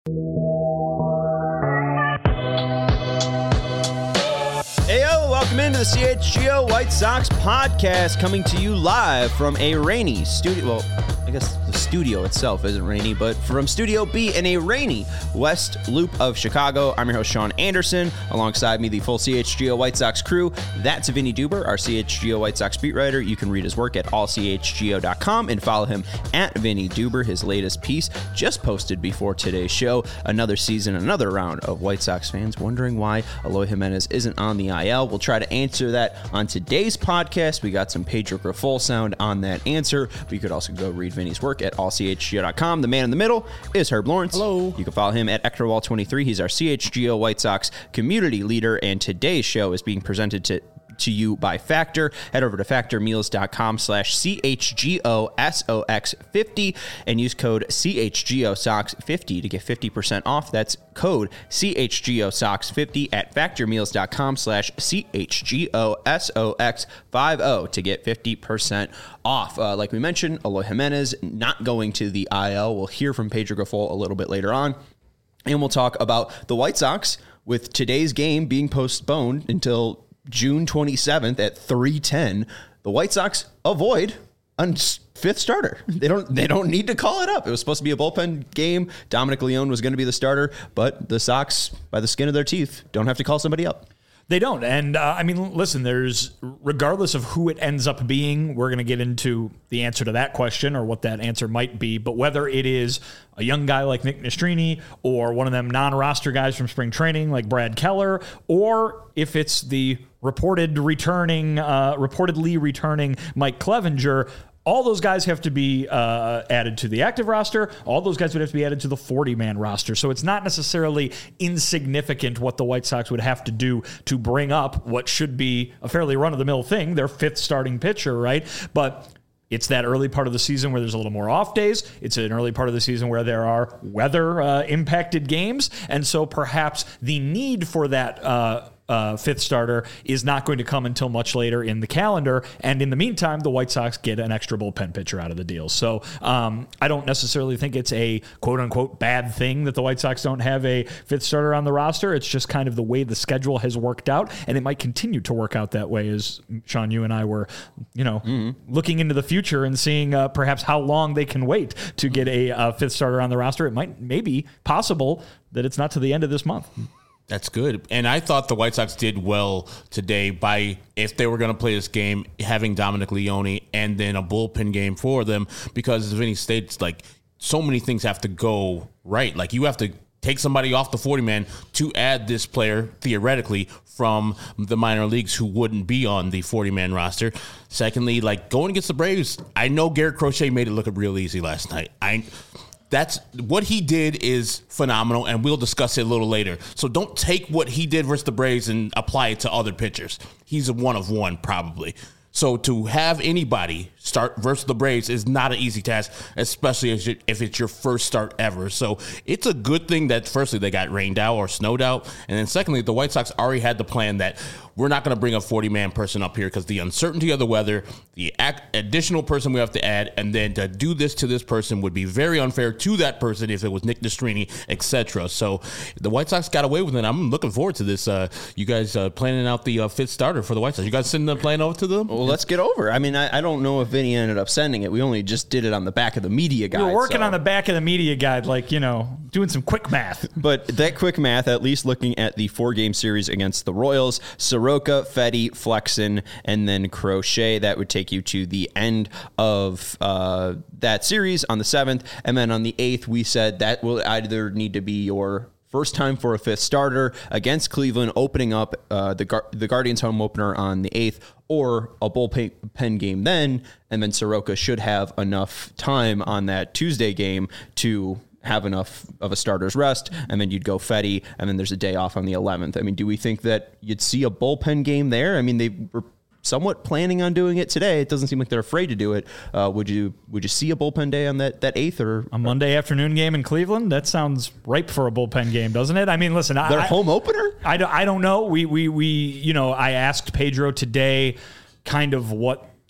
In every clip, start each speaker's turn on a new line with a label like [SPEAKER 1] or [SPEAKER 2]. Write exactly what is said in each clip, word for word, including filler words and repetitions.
[SPEAKER 1] Heyo, welcome into the C H G O White Sox podcast, coming to you live from a rainy studio. Well, I guess the studio itself isn't rainy, but from Studio B in a rainy West Loop of Chicago. I'm your host, Sean Anderson. Alongside me, the full C H G O White Sox crew. That's Vinny Duber, our C H G O White Sox beat writer. You can read his work at all c h g o dot com and follow him at Vinny Duber. His latest piece just posted before today's show. Another season, another round of White Sox fans wondering why Eloy Jimenez isn't on the I L. We'll try to answer that on today's podcast. We got some Pedro Grifol sound on that answer, but you could also go read Vinny's work at all c h g o dot com. The man in the middle is Herb Lawrence.
[SPEAKER 2] Hello.
[SPEAKER 1] You can follow him at Ectorwall twenty-three. He's our C H G O White Sox community leader, and today's show is being presented to to you by Factor. Head over to factor meals dot com slash C H G O S O X fifty and use code C H G O S O X fifty to get fifty percent off. That's code C H G O S O X fifty at factor meals dot com slash C H G O S O X fifty to get fifty percent off. Uh, like we mentioned, Eloy Jimenez not going to the I L. We'll hear from Pedro Grifol a little bit later on. And we'll talk about the White Sox with today's game being postponed until June twenty-seventh at three ten. The White Sox avoid a fifth starter. They don't they don't need to call it up. It was supposed to be a bullpen game. Dominic Leone was going to be the starter, but the Sox, by the skin of their teeth, don't have to call somebody up.
[SPEAKER 2] They don't. And uh, I mean, listen, there's, regardless of who it ends up being, we're going to get into the answer to that question or what that answer might be. But whether it is a young guy like Nick Nastrini or one of them non-roster guys from spring training like Brad Keller, or if it's the reported returning, uh, reportedly returning Mike Clevenger, all those guys have to be uh, added to the active roster. All those guys would have to be added to the forty-man roster. So it's not necessarily insignificant what the White Sox would have to do to bring up what should be a fairly run-of-the-mill thing, their fifth starting pitcher, right? But it's that early part of the season where there's a little more off days. It's an early part of the season where there are weather-impacted uh, games. And so perhaps the need for that uh Uh, fifth starter is not going to come until much later in the calendar. And in the meantime, the White Sox get an extra bullpen pitcher out of the deal. So um, I don't necessarily think it's a quote-unquote bad thing that the White Sox don't have a fifth starter on the roster. It's just kind of the way the schedule has worked out, and it might continue to work out that way as, Sean, you and I were, you know, mm-hmm. looking into the future and seeing uh, perhaps how long they can wait to get a, a fifth starter on the roster. It might maybe possible that it's not to the end of this month.
[SPEAKER 3] That's good. And I thought the White Sox did well today by, if they were going to play this game, having Dominic Leone and then a bullpen game for them, because as Vinny states, like, so many things have to go right. Like, you have to take somebody off the forty-man to add this player, theoretically, from the minor leagues who wouldn't be on the forty-man roster. Secondly, like, going against the Braves, I know Garrett Crochet made it look real easy last night. I... That's what he did is phenomenal, and we'll discuss it a little later. So don't take what he did versus the Braves and apply it to other pitchers. He's a one of one, probably. So to have anybody start versus the Braves is not an easy task, especially if it's your first start ever. So it's a good thing that, firstly, they got rained out or snowed out. And then secondly, the White Sox already had the plan that we're not going to bring a forty-man person up here because the uncertainty of the weather, the additional person we have to add, and then to do this to this person would be very unfair to that person if it was Nick Nastrini, et cetera. So the White Sox got away with it. I'm looking forward to this. Uh, you guys uh, planning out the uh, fifth starter for the White Sox. You guys sending the plan over to them?
[SPEAKER 1] Well, let's get over. I mean, I, I don't know if Vinny ended up sending it. We only just did it on the back of the media guide.
[SPEAKER 2] We were working
[SPEAKER 1] so.
[SPEAKER 2] on the back of the media guide, like, you know, doing some quick math.
[SPEAKER 1] But that quick math, at least looking at the four-game series against the Royals, Soroka, Fedde, Flexen, and then Crochet, that would take you to the end of uh, that series on the seventh. And then on the eighth, we said that will either need to be your first time for a fifth starter against Cleveland, opening up uh, the Gar- the Guardians home opener on the eighth, or a bullpen game then, and then Soroka should have enough time on that Tuesday game to have enough of a starter's rest, and then you'd go Fedde, and then there's a day off on the eleventh. I mean, do we think that you'd see a bullpen game there? I mean, they were somewhat planning on doing it today. It doesn't seem like they're afraid to do it. Uh, would you would you see a bullpen day on that, that eighth or
[SPEAKER 2] a Monday afternoon game in Cleveland? That sounds ripe for a bullpen game, doesn't it? I mean, listen,
[SPEAKER 1] their
[SPEAKER 2] I,
[SPEAKER 1] home opener.
[SPEAKER 2] I don't, I don't know. We we we you know, I asked Pedro today, kind of what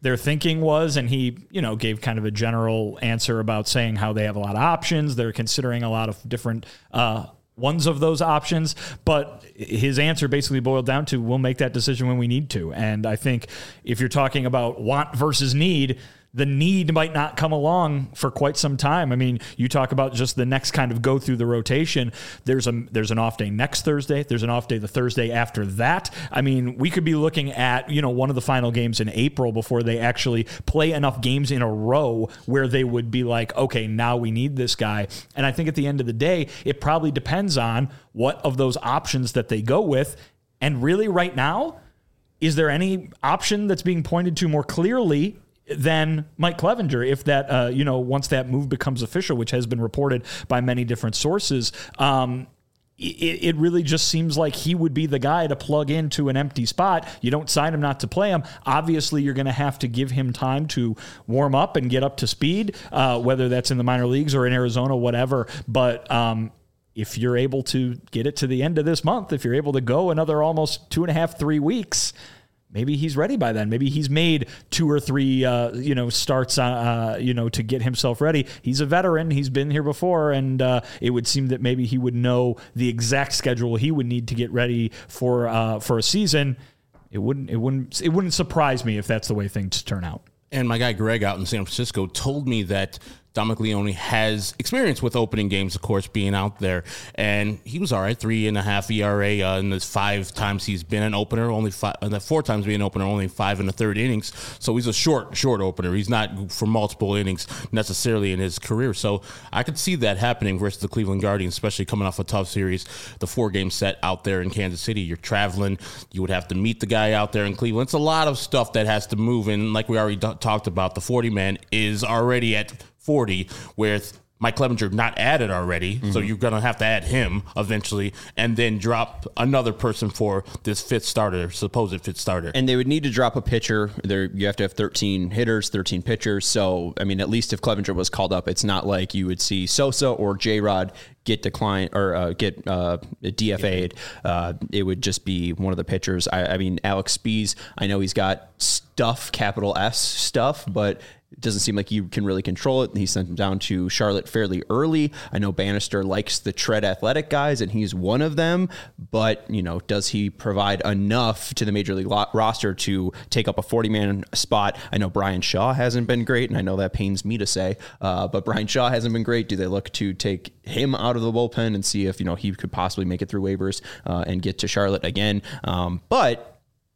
[SPEAKER 2] their thinking was, and he, you know, gave kind of a general answer about saying how they have a lot of options. They're considering a lot of different uh, ones of those options, but his answer basically boiled down to, we'll make that decision when we need to. And I think if you're talking about want versus need, the need might not come along for quite some time. I mean, you talk about just the next kind of go through the rotation. There's a there's an off day next Thursday. There's an off day the Thursday after that. I mean, we could be looking at, you know, one of the final games in April before they actually play enough games in a row where they would be like, okay, now we need this guy. And I think at the end of the day, it probably depends on what of those options that they go with. And really right now, is there any option that's being pointed to more clearly than Mike Clevinger, if that, uh, you know, once that move becomes official, which has been reported by many different sources, um, it, it really just seems like he would be the guy to plug into an empty spot. You don't sign him not to play him. Obviously, you're going to have to give him time to warm up and get up to speed, uh, whether that's in the minor leagues or in Arizona, whatever. But um, if you're able to get it to the end of this month, if you're able to go another almost two and a half, three weeks, maybe he's ready by then. Maybe he's made two or three, uh, you know, starts, uh, you know, to get himself ready. He's a veteran. He's been here before, and uh, it would seem that maybe he would know the exact schedule he would need to get ready for uh, for a season. It wouldn't, it wouldn't, it wouldn't surprise me if that's the way things turn out.
[SPEAKER 3] And my guy Greg out in San Francisco told me that Dominic Leone has experience with opening games, of course, being out there. And he was all right, three and a half E R A uh, in the five times he's been an opener, only five, uh, the four times being an opener, only five in the third innings. So he's a short, short opener. He's not for multiple innings necessarily in his career. So I could see that happening versus the Cleveland Guardians, especially coming off a tough series, the four-game set out there in Kansas City. You're traveling. You would have to meet the guy out there in Cleveland. It's a lot of stuff that has to move. And like we already d- talked about, the forty-man is already at forty, with Mike Clevinger not added already, mm-hmm. so you're going to have to add him eventually, and then drop another person for this fifth starter, supposed fifth starter.
[SPEAKER 1] And they would need to drop a pitcher. There, you have to have thirteen hitters, thirteen pitchers. So, I mean, at least if Clevinger was called up, it's not like you would see Sosa or J-Rod get declined or uh, get uh, D F A'd. Uh, it would just be one of the pitchers. I, I mean, Alex Spees, I know he's got stuff, capital S stuff, but it doesn't seem like you can really control it. He sent him down to Charlotte fairly early. I know Bannister likes the tread athletic guys, and he's one of them. But, you know, does he provide enough to the major league lo- roster to take up a forty-man spot? I know Brian Shaw hasn't been great, and I know that pains me to say, uh, but Brian Shaw hasn't been great. Do they look to take him out of the bullpen and see if, you know, he could possibly make it through waivers uh, and get to Charlotte again? Um, but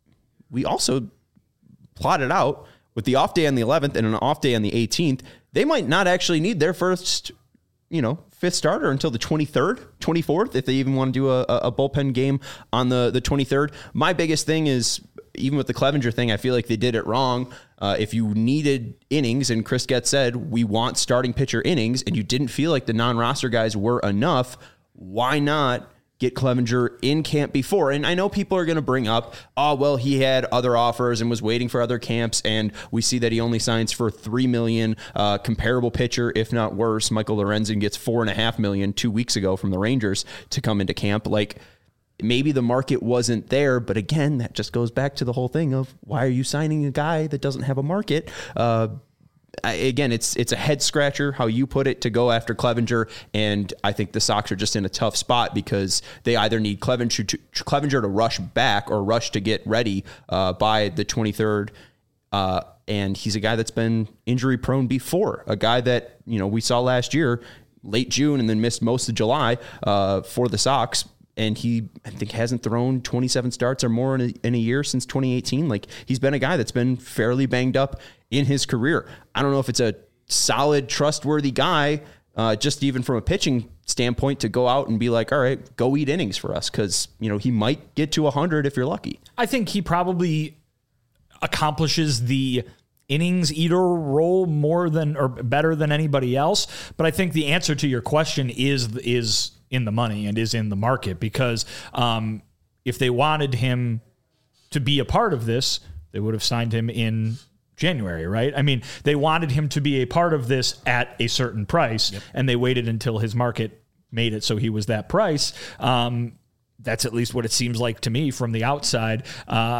[SPEAKER 1] we also plotted out, with the off day on the eleventh and an off day on the eighteenth, they might not actually need their first, you know, fifth starter until the twenty-third, twenty-fourth, if they even want to do a, a bullpen game on the, the twenty-third. My biggest thing is, even with the Clevinger thing, I feel like they did it wrong. Uh, if you needed innings, and Chris Getz said, we want starting pitcher innings, and you didn't feel like the non-roster guys were enough, why not get Clevinger in camp before? And I know people are going to bring up, oh, well, he had other offers and was waiting for other camps, and we see that he only signs for three million dollars. Uh, comparable pitcher, if not worse, Michael Lorenzen gets four and a half million two weeks ago from the Rangers to come into camp. Like, maybe the market wasn't there, but again, that just goes back to the whole thing of, why are you signing a guy that doesn't have a market? Uh, I, again, it's it's a head scratcher how you put it to go after Clevinger, and I think the Sox are just in a tough spot because they either need Clevinger to, Clevinger to rush back or rush to get ready uh, by the twenty-third, uh, and he's a guy that's been injury prone before, a guy that, you know, we saw last year, late June, and then missed most of July uh, for the Sox. And he, I think, hasn't thrown twenty-seven starts or more in a, in a year since twenty eighteen. Like, he's been a guy that's been fairly banged up in his career. I don't know if it's a solid, trustworthy guy, uh, just even from a pitching standpoint, to go out and be like, all right, go eat innings for us, because, you know, he might get to one hundred if you're lucky.
[SPEAKER 2] I think he probably accomplishes the innings eater role more than or better than anybody else. But I think the answer to your question is is in the money and is in the market, because um, if they wanted him to be a part of this, they would have signed him in January, right? I mean, they wanted him to be a part of this at a certain price, yep. and they waited until his market made it so he was that price. Um, that's at least what it seems like to me from the outside. Uh,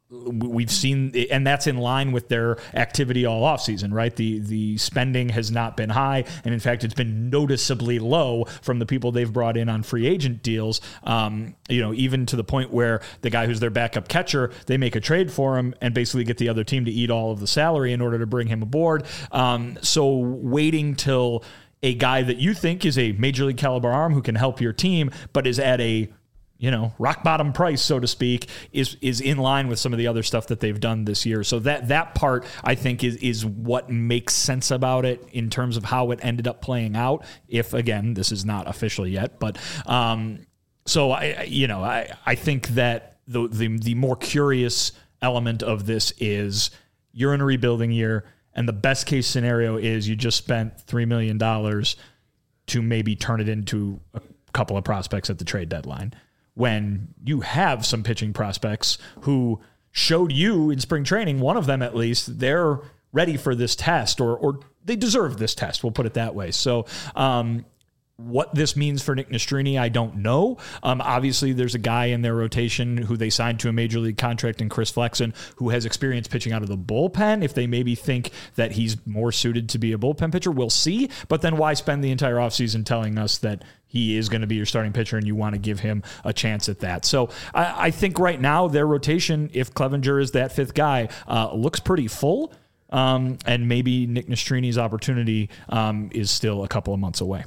[SPEAKER 2] we've seen, and that's in line with their activity all offseason, right? The the spending has not been high, and in fact, it's been noticeably low from the people they've brought in on free agent deals. Um, you know, even to the point where the guy who's their backup catcher, they make a trade for him and basically get the other team to eat all of the salary in order to bring him aboard. Um, so waiting till a guy that you think is a major league caliber arm who can help your team, but is at a you know, rock bottom price, so to speak, is is in line with some of the other stuff that they've done this year. So that that part, I think, is is what makes sense about it in terms of how it ended up playing out. If, again, this is not official yet. But um, so, I you know, I, I think that the, the the more curious element of this is you're in a rebuilding year, and the best case scenario is you just spent three million dollars to maybe turn it into a couple of prospects at the trade deadline, when you have some pitching prospects who showed you in spring training, one of them at least, they're ready for this test, or or they deserve this test, we'll put it that way. So um, what this means for Nick Nastrini, I don't know. Um, obviously, there's a guy in their rotation who they signed to a major league contract in Chris Flexen, who has experience pitching out of the bullpen. If they maybe think that he's more suited to be a bullpen pitcher, we'll see. But then why spend the entire offseason telling us that he is going to be your starting pitcher and you want to give him a chance at that? So I, I think right now their rotation, if Clevenger is that fifth guy, uh, looks pretty full. Um, and maybe Nick Nastrini's opportunity um, is still a couple of months away.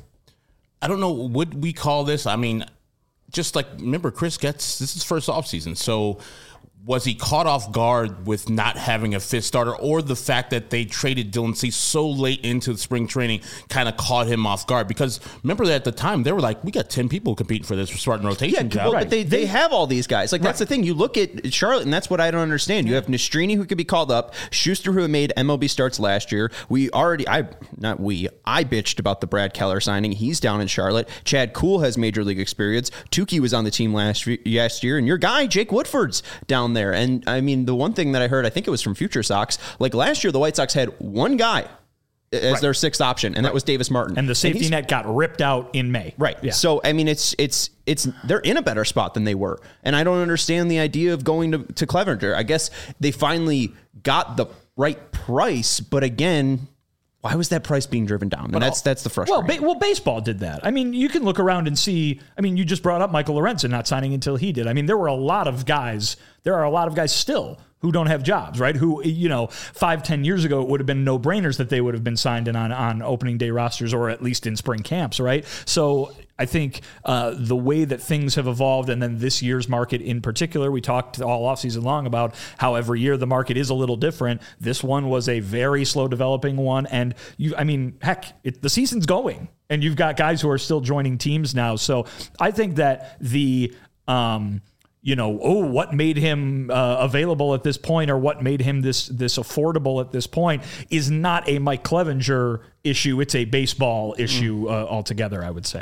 [SPEAKER 3] I don't know, would we call this, I mean, just like, remember, Chris Getz, this is first offseason, so was he caught off guard with not having a fifth starter, or the fact that they traded Dylan Cease so late into the spring training kind of caught him off guard? Because remember that at the time, they were like, we got ten people competing for this starting rotation
[SPEAKER 1] yeah,
[SPEAKER 3] job.
[SPEAKER 1] Well,
[SPEAKER 2] right.
[SPEAKER 1] But they, they have all these guys. Like, that's right. The thing. You look at Charlotte, and that's what I don't understand. You have Nastrini, who could be called up, Schuster, who made M L B starts last year. We already, I not we, I bitched about the Brad Keller signing. He's down in Charlotte. Chad Kuhl has major league experience. Tukey was on the team last, last year, and your guy, Jake Woodford's down there. And I mean, the one thing that I heard, I think it was from Future Sox, like last year, the White Sox had one guy as right. their sixth option, and right. that was Davis Martin.
[SPEAKER 2] And the safety and net got ripped out in May.
[SPEAKER 1] Right.
[SPEAKER 2] Yeah.
[SPEAKER 1] So, I mean, it's, it's, it's, they're in a better spot than they were. And I don't understand the idea of going to, to Clevenger. I guess they finally got the right price, but again, why was that price being driven down? And but that's that's the frustrating.
[SPEAKER 2] Well, ba- well, baseball did that. I mean, you can look around and see. I mean, you just brought up Michael Lorenzen not signing until he did. I mean, there were a lot of guys. There are a lot of guys still who don't have jobs, right? Who, you know, five, ten years ago, it would have been no-brainers that they would have been signed in on, on opening day rosters, or at least in spring camps, right? So I think uh, the way that things have evolved, and then this year's market in particular, we talked all offseason long about how every year the market is a little different. This one was a very slow developing one. And you, I mean, heck, it, the season's going, and you've got guys who are still joining teams now. So I think that the, um, you know, oh, what made him uh, available at this point, or what made him this this affordable at this point, is not a Mike Clevenger issue. It's a baseball issue uh, altogether, I would say.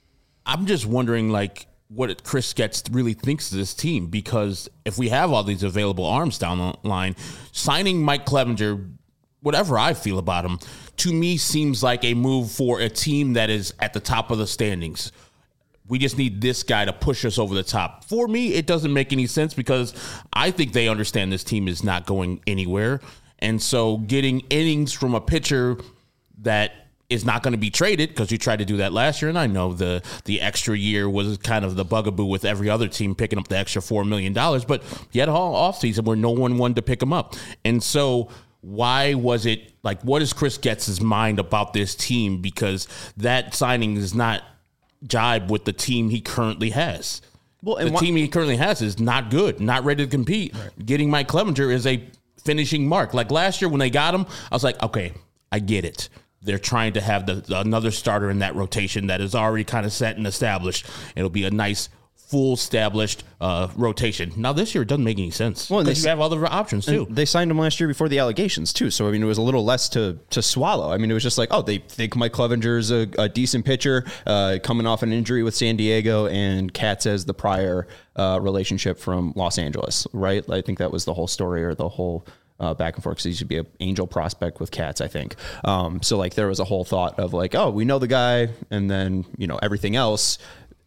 [SPEAKER 3] I'm just wondering, like, what Chris Getz really thinks of this team, because if we have all these available arms down the line, signing Mike Clevenger, whatever I feel about him, to me seems like a move for a team that is at the top of the standings. We just need this guy to push us over the top. For me, it doesn't make any sense, because I think they understand this team is not going anywhere. And so getting innings from a pitcher that is not going to be traded, because you tried to do that last year, and I know the the extra year was kind of the bugaboo with every other team picking up the extra four million dollars, but you had a whole offseason where no one wanted to pick him up. And so why was it, like, what is Chris Getz's mind about this team? Because that signing is not jibe with the team he currently has. Well, and the wh- team he currently has is not good, not ready to compete. Right. Getting Mike Clevenger is a finishing mark. Like last year when they got him, I was like, okay, I get it. They're trying to have the, the another starter in that rotation that is already kind of set and established. It'll be a nice, full established uh, rotation. Now this year it doesn't make any sense, because well, you have other options too.
[SPEAKER 1] They signed him last year before the allegations too, so I mean it was a little less to to swallow. I mean it was just like, oh, they think Mike Clevenger's a, a decent pitcher, uh, coming off an injury with San Diego, and Katz has the prior uh, relationship from Los Angeles, right? I think that was the whole story, or the whole Uh, back and forth, because he should be an Angel prospect with Katz, I think. Um, so like there was a whole thought of like, oh, we know the guy, and then, you know, everything else.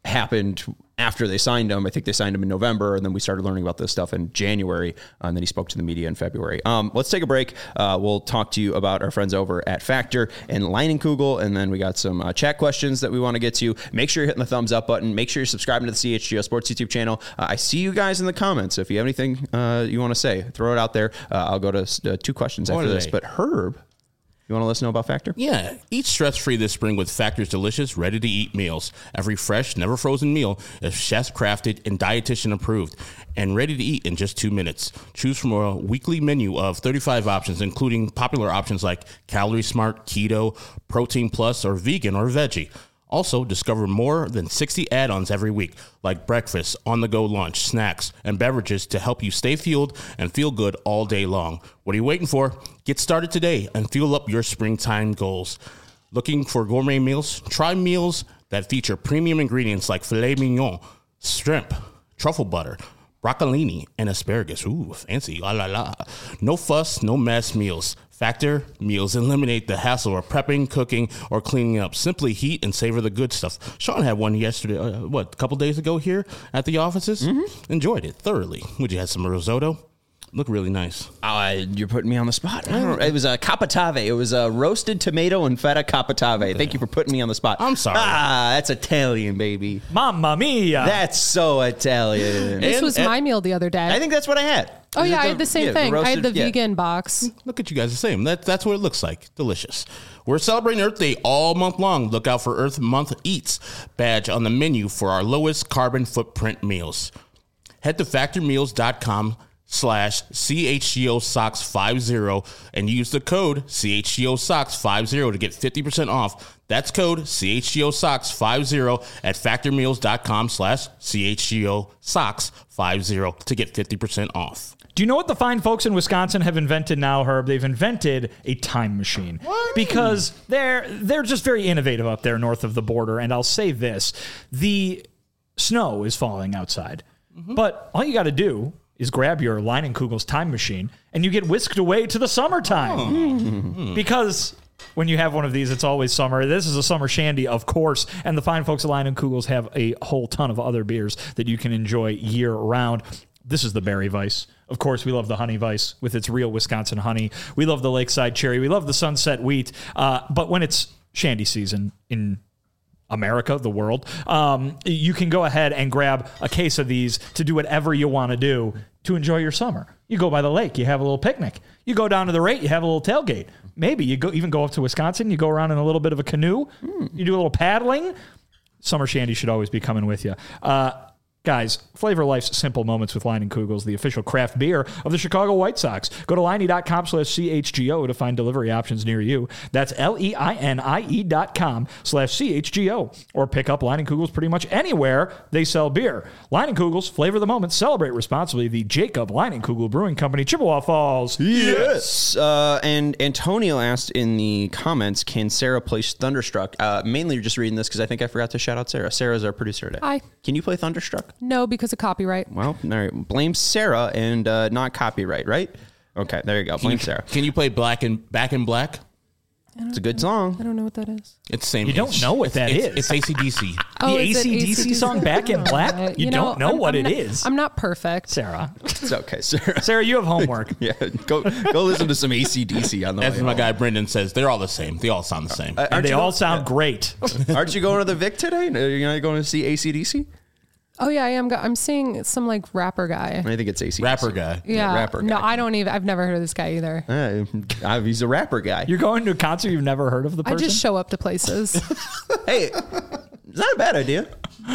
[SPEAKER 1] happened after they signed him. I think they signed him in November, and then we started learning about this stuff in January, and then he spoke to the media in February. Um, let's take a break. Uh, we'll talk to you about our friends over at Factor and Leinenkugel, and then we got some uh, chat questions that we want to get to. Make sure you're hitting the thumbs up button. Make sure you're subscribing to the C H G O Sports YouTube channel. Uh, I see you guys in the comments. If you have anything uh, you want to say, throw it out there. Uh, I'll go to uh, two questions
[SPEAKER 3] What
[SPEAKER 1] after
[SPEAKER 3] are
[SPEAKER 1] this.
[SPEAKER 3] they?
[SPEAKER 1] But Herb, you want to let us know about Factor?
[SPEAKER 3] Yeah, eat stress-free this spring with Factor's delicious, ready-to-eat meals. Every fresh, never-frozen meal is chef-crafted and dietitian-approved and ready to eat in just two minutes. Choose from a weekly menu of thirty-five options, including popular options like Calorie Smart, Keto, Protein Plus, or Vegan or Veggie. Also, discover more than sixty add-ons every week, like breakfast, on-the-go lunch, snacks, and beverages to help you stay fueled and feel good all day long. What are you waiting for? Get started today and fuel up your springtime goals. Looking for gourmet meals? Try meals that feature premium ingredients like filet mignon, shrimp, truffle butter, broccolini, and asparagus. Ooh, fancy. La la la. No fuss, no mess meals. Factor meals eliminate the hassle of prepping, cooking, or cleaning up. Simply heat and savor the good stuff. Sean had one yesterday, uh, what, a couple days ago here at the offices? Mm-hmm. Enjoyed it thoroughly. Would you have some risotto? Look really nice.
[SPEAKER 1] Uh, you're putting me on the spot. I don't know. It was a capatave. It was a roasted tomato and feta capatave. Thank you for putting me on the spot.
[SPEAKER 3] I'm sorry.
[SPEAKER 1] Ah, that's Italian, baby.
[SPEAKER 2] Mamma mia.
[SPEAKER 1] That's so Italian.
[SPEAKER 4] This
[SPEAKER 3] And-
[SPEAKER 4] was
[SPEAKER 3] and-
[SPEAKER 4] my meal the other day.
[SPEAKER 1] I think that's what I had.
[SPEAKER 4] oh,
[SPEAKER 1] Is it
[SPEAKER 4] yeah, I had the same
[SPEAKER 1] yeah,
[SPEAKER 4] thing. I
[SPEAKER 1] roasted-
[SPEAKER 4] had the
[SPEAKER 1] yeah.
[SPEAKER 4] vegan box.
[SPEAKER 3] Look at you guys the same. That, that's what it looks like. Delicious. We're celebrating Earth Day all month long. Look out for Earth Month Eats badge on the menu for our lowest carbon footprint meals. Head to factormeals.com slash CHGO Socks 50 and use the code C H G O Socks 50 to get fifty percent off. That's code C H G O Socks 50 at factormeals.com slash CHGO Socks 50 to get fifty percent off.
[SPEAKER 2] Do you know what the fine folks in Wisconsin have invented now, Herb? They've invented a time machine. What? Because they're they're just very innovative up there north of the border. And I'll say this, the snow is falling outside. Mm-hmm. But all you got to do is grab your Leinenkugel's time machine and you get whisked away to the summertime. Oh. Mm-hmm. Because when you have one of these, it's always summer. This is a summer shandy, of course, and the fine folks at Leinenkugel's have a whole ton of other beers that you can enjoy year-round. This is the Berry Weiss. Of course, we love the Honey Weiss with its real Wisconsin honey. We love the Lakeside Cherry. We love the Sunset Wheat. Uh, but when it's shandy season in America, the world, um, you can go ahead and grab a case of these to do whatever you want to do to enjoy your summer. You go by the lake, you have a little picnic. You go down to the rate, you have a little tailgate. Maybe you go even go up to Wisconsin, you go around in a little bit of a canoe, mm. you do a little paddling. Summer shandy should always be coming with you. Uh, Guys, flavor life's simple moments with Leinenkugel's, the official craft beer of the Chicago White Sox. Go to Leinie.com slash CHGO to find delivery options near you. That's L-E-I-N-I-E dot com slash C-H-G-O. Or pick up Leinenkugel's pretty much anywhere they sell beer. Leinenkugel's, flavor the moment, celebrate responsibly. The Jacob Leinenkugel Brewing Company, Chippewa Falls.
[SPEAKER 1] Yes. Uh, and Antonio asked in the comments, can Sarah play Thunderstruck? Uh, mainly just reading this because I think I forgot to shout out Sarah. Sarah's our producer today.
[SPEAKER 4] Hi.
[SPEAKER 1] Can you play Thunderstruck?
[SPEAKER 4] No, because of copyright.
[SPEAKER 1] Well, all right. Blame Sarah and uh, not copyright, right? Okay, there you go. Blame
[SPEAKER 3] Can you,
[SPEAKER 1] Sarah.
[SPEAKER 3] Can you play Black and Back in Black?
[SPEAKER 1] It's a good song.
[SPEAKER 4] I don't know what that is.
[SPEAKER 3] It's the same.
[SPEAKER 2] You don't
[SPEAKER 3] it's,
[SPEAKER 2] know what that
[SPEAKER 3] it's,
[SPEAKER 2] is.
[SPEAKER 3] It's A C D C.
[SPEAKER 4] Oh,
[SPEAKER 2] the
[SPEAKER 4] is it
[SPEAKER 2] A C D C song Back in Black?
[SPEAKER 4] Uh,
[SPEAKER 2] You, don't know
[SPEAKER 4] I'm-
[SPEAKER 2] what
[SPEAKER 4] I'm
[SPEAKER 2] it
[SPEAKER 4] not-
[SPEAKER 2] is.
[SPEAKER 4] I'm not perfect.
[SPEAKER 2] Sarah.
[SPEAKER 1] It's okay, Sarah.
[SPEAKER 2] Sarah, you have homework.
[SPEAKER 1] Yeah, go go listen to some A C D C on the
[SPEAKER 3] As
[SPEAKER 1] way
[SPEAKER 3] my
[SPEAKER 1] home.
[SPEAKER 3] guy Brendan says, they're all the same. They all sound the same.
[SPEAKER 1] Uh,
[SPEAKER 2] And
[SPEAKER 1] aren't
[SPEAKER 2] they
[SPEAKER 1] you
[SPEAKER 2] all
[SPEAKER 1] go-
[SPEAKER 2] sound great.
[SPEAKER 1] Aren't you going to the Vic today? Are you not going to see A C D C?
[SPEAKER 4] Oh yeah, I am. go- I'm seeing some like rapper guy.
[SPEAKER 1] I think it's A C D C.
[SPEAKER 3] Rapper guy.
[SPEAKER 4] Yeah.
[SPEAKER 1] rapper
[SPEAKER 4] No,
[SPEAKER 1] guy.
[SPEAKER 4] I don't even. I've never heard of this guy either.
[SPEAKER 1] Uh, he's a rapper guy.
[SPEAKER 2] You're going to a concert you've never heard of the
[SPEAKER 4] I
[SPEAKER 2] person?
[SPEAKER 4] just show up to places,
[SPEAKER 1] Hey, it's not a bad idea.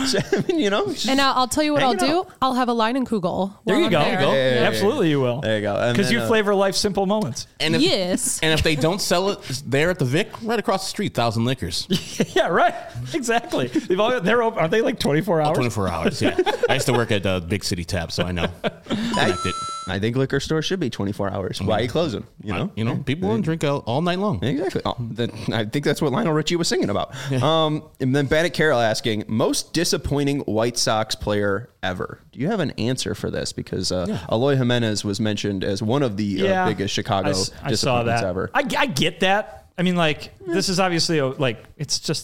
[SPEAKER 1] I mean, you know. just-
[SPEAKER 4] and I'll, I'll tell you what I'll
[SPEAKER 1] Hang it
[SPEAKER 4] do.
[SPEAKER 1] out.
[SPEAKER 4] I'll have a Leinenkugel.
[SPEAKER 2] There
[SPEAKER 4] while
[SPEAKER 2] you
[SPEAKER 4] I'm
[SPEAKER 2] go.
[SPEAKER 4] there.
[SPEAKER 2] There you go.
[SPEAKER 1] Yeah, yeah, yeah,
[SPEAKER 2] Absolutely you will.
[SPEAKER 1] There you go. And
[SPEAKER 2] Because
[SPEAKER 1] then,
[SPEAKER 2] you
[SPEAKER 1] uh,
[SPEAKER 2] flavor life simple moments.
[SPEAKER 3] And if,
[SPEAKER 4] Yes.
[SPEAKER 3] And if they don't sell it there at the Vic, right across the street, Thousand Liquors.
[SPEAKER 2] Yeah, right. Exactly. They've all, they're open. Aren't they like twenty-four hours?
[SPEAKER 3] twenty-four hours, yeah. I used to work at uh, Big City Tap, so I know. Connected.
[SPEAKER 1] I think liquor stores should be twenty-four hours. Why are you closing? You know.
[SPEAKER 3] You know, people want to drink all, all night long.
[SPEAKER 1] Exactly. Oh, that, I think that's what Lionel Richie was singing about. Um, and then Bandit Carroll asking, most disappointing White Sox player ever. Do you have an answer for this? Because uh,
[SPEAKER 3] Yeah.
[SPEAKER 1] Eloy Jimenez was mentioned as one of the
[SPEAKER 2] Yeah.
[SPEAKER 1] uh, biggest Chicago
[SPEAKER 2] I, s- I saw
[SPEAKER 1] disappointments
[SPEAKER 2] that.
[SPEAKER 1] ever.
[SPEAKER 2] I, I get that. I mean, like, this is obviously a, like, it's just a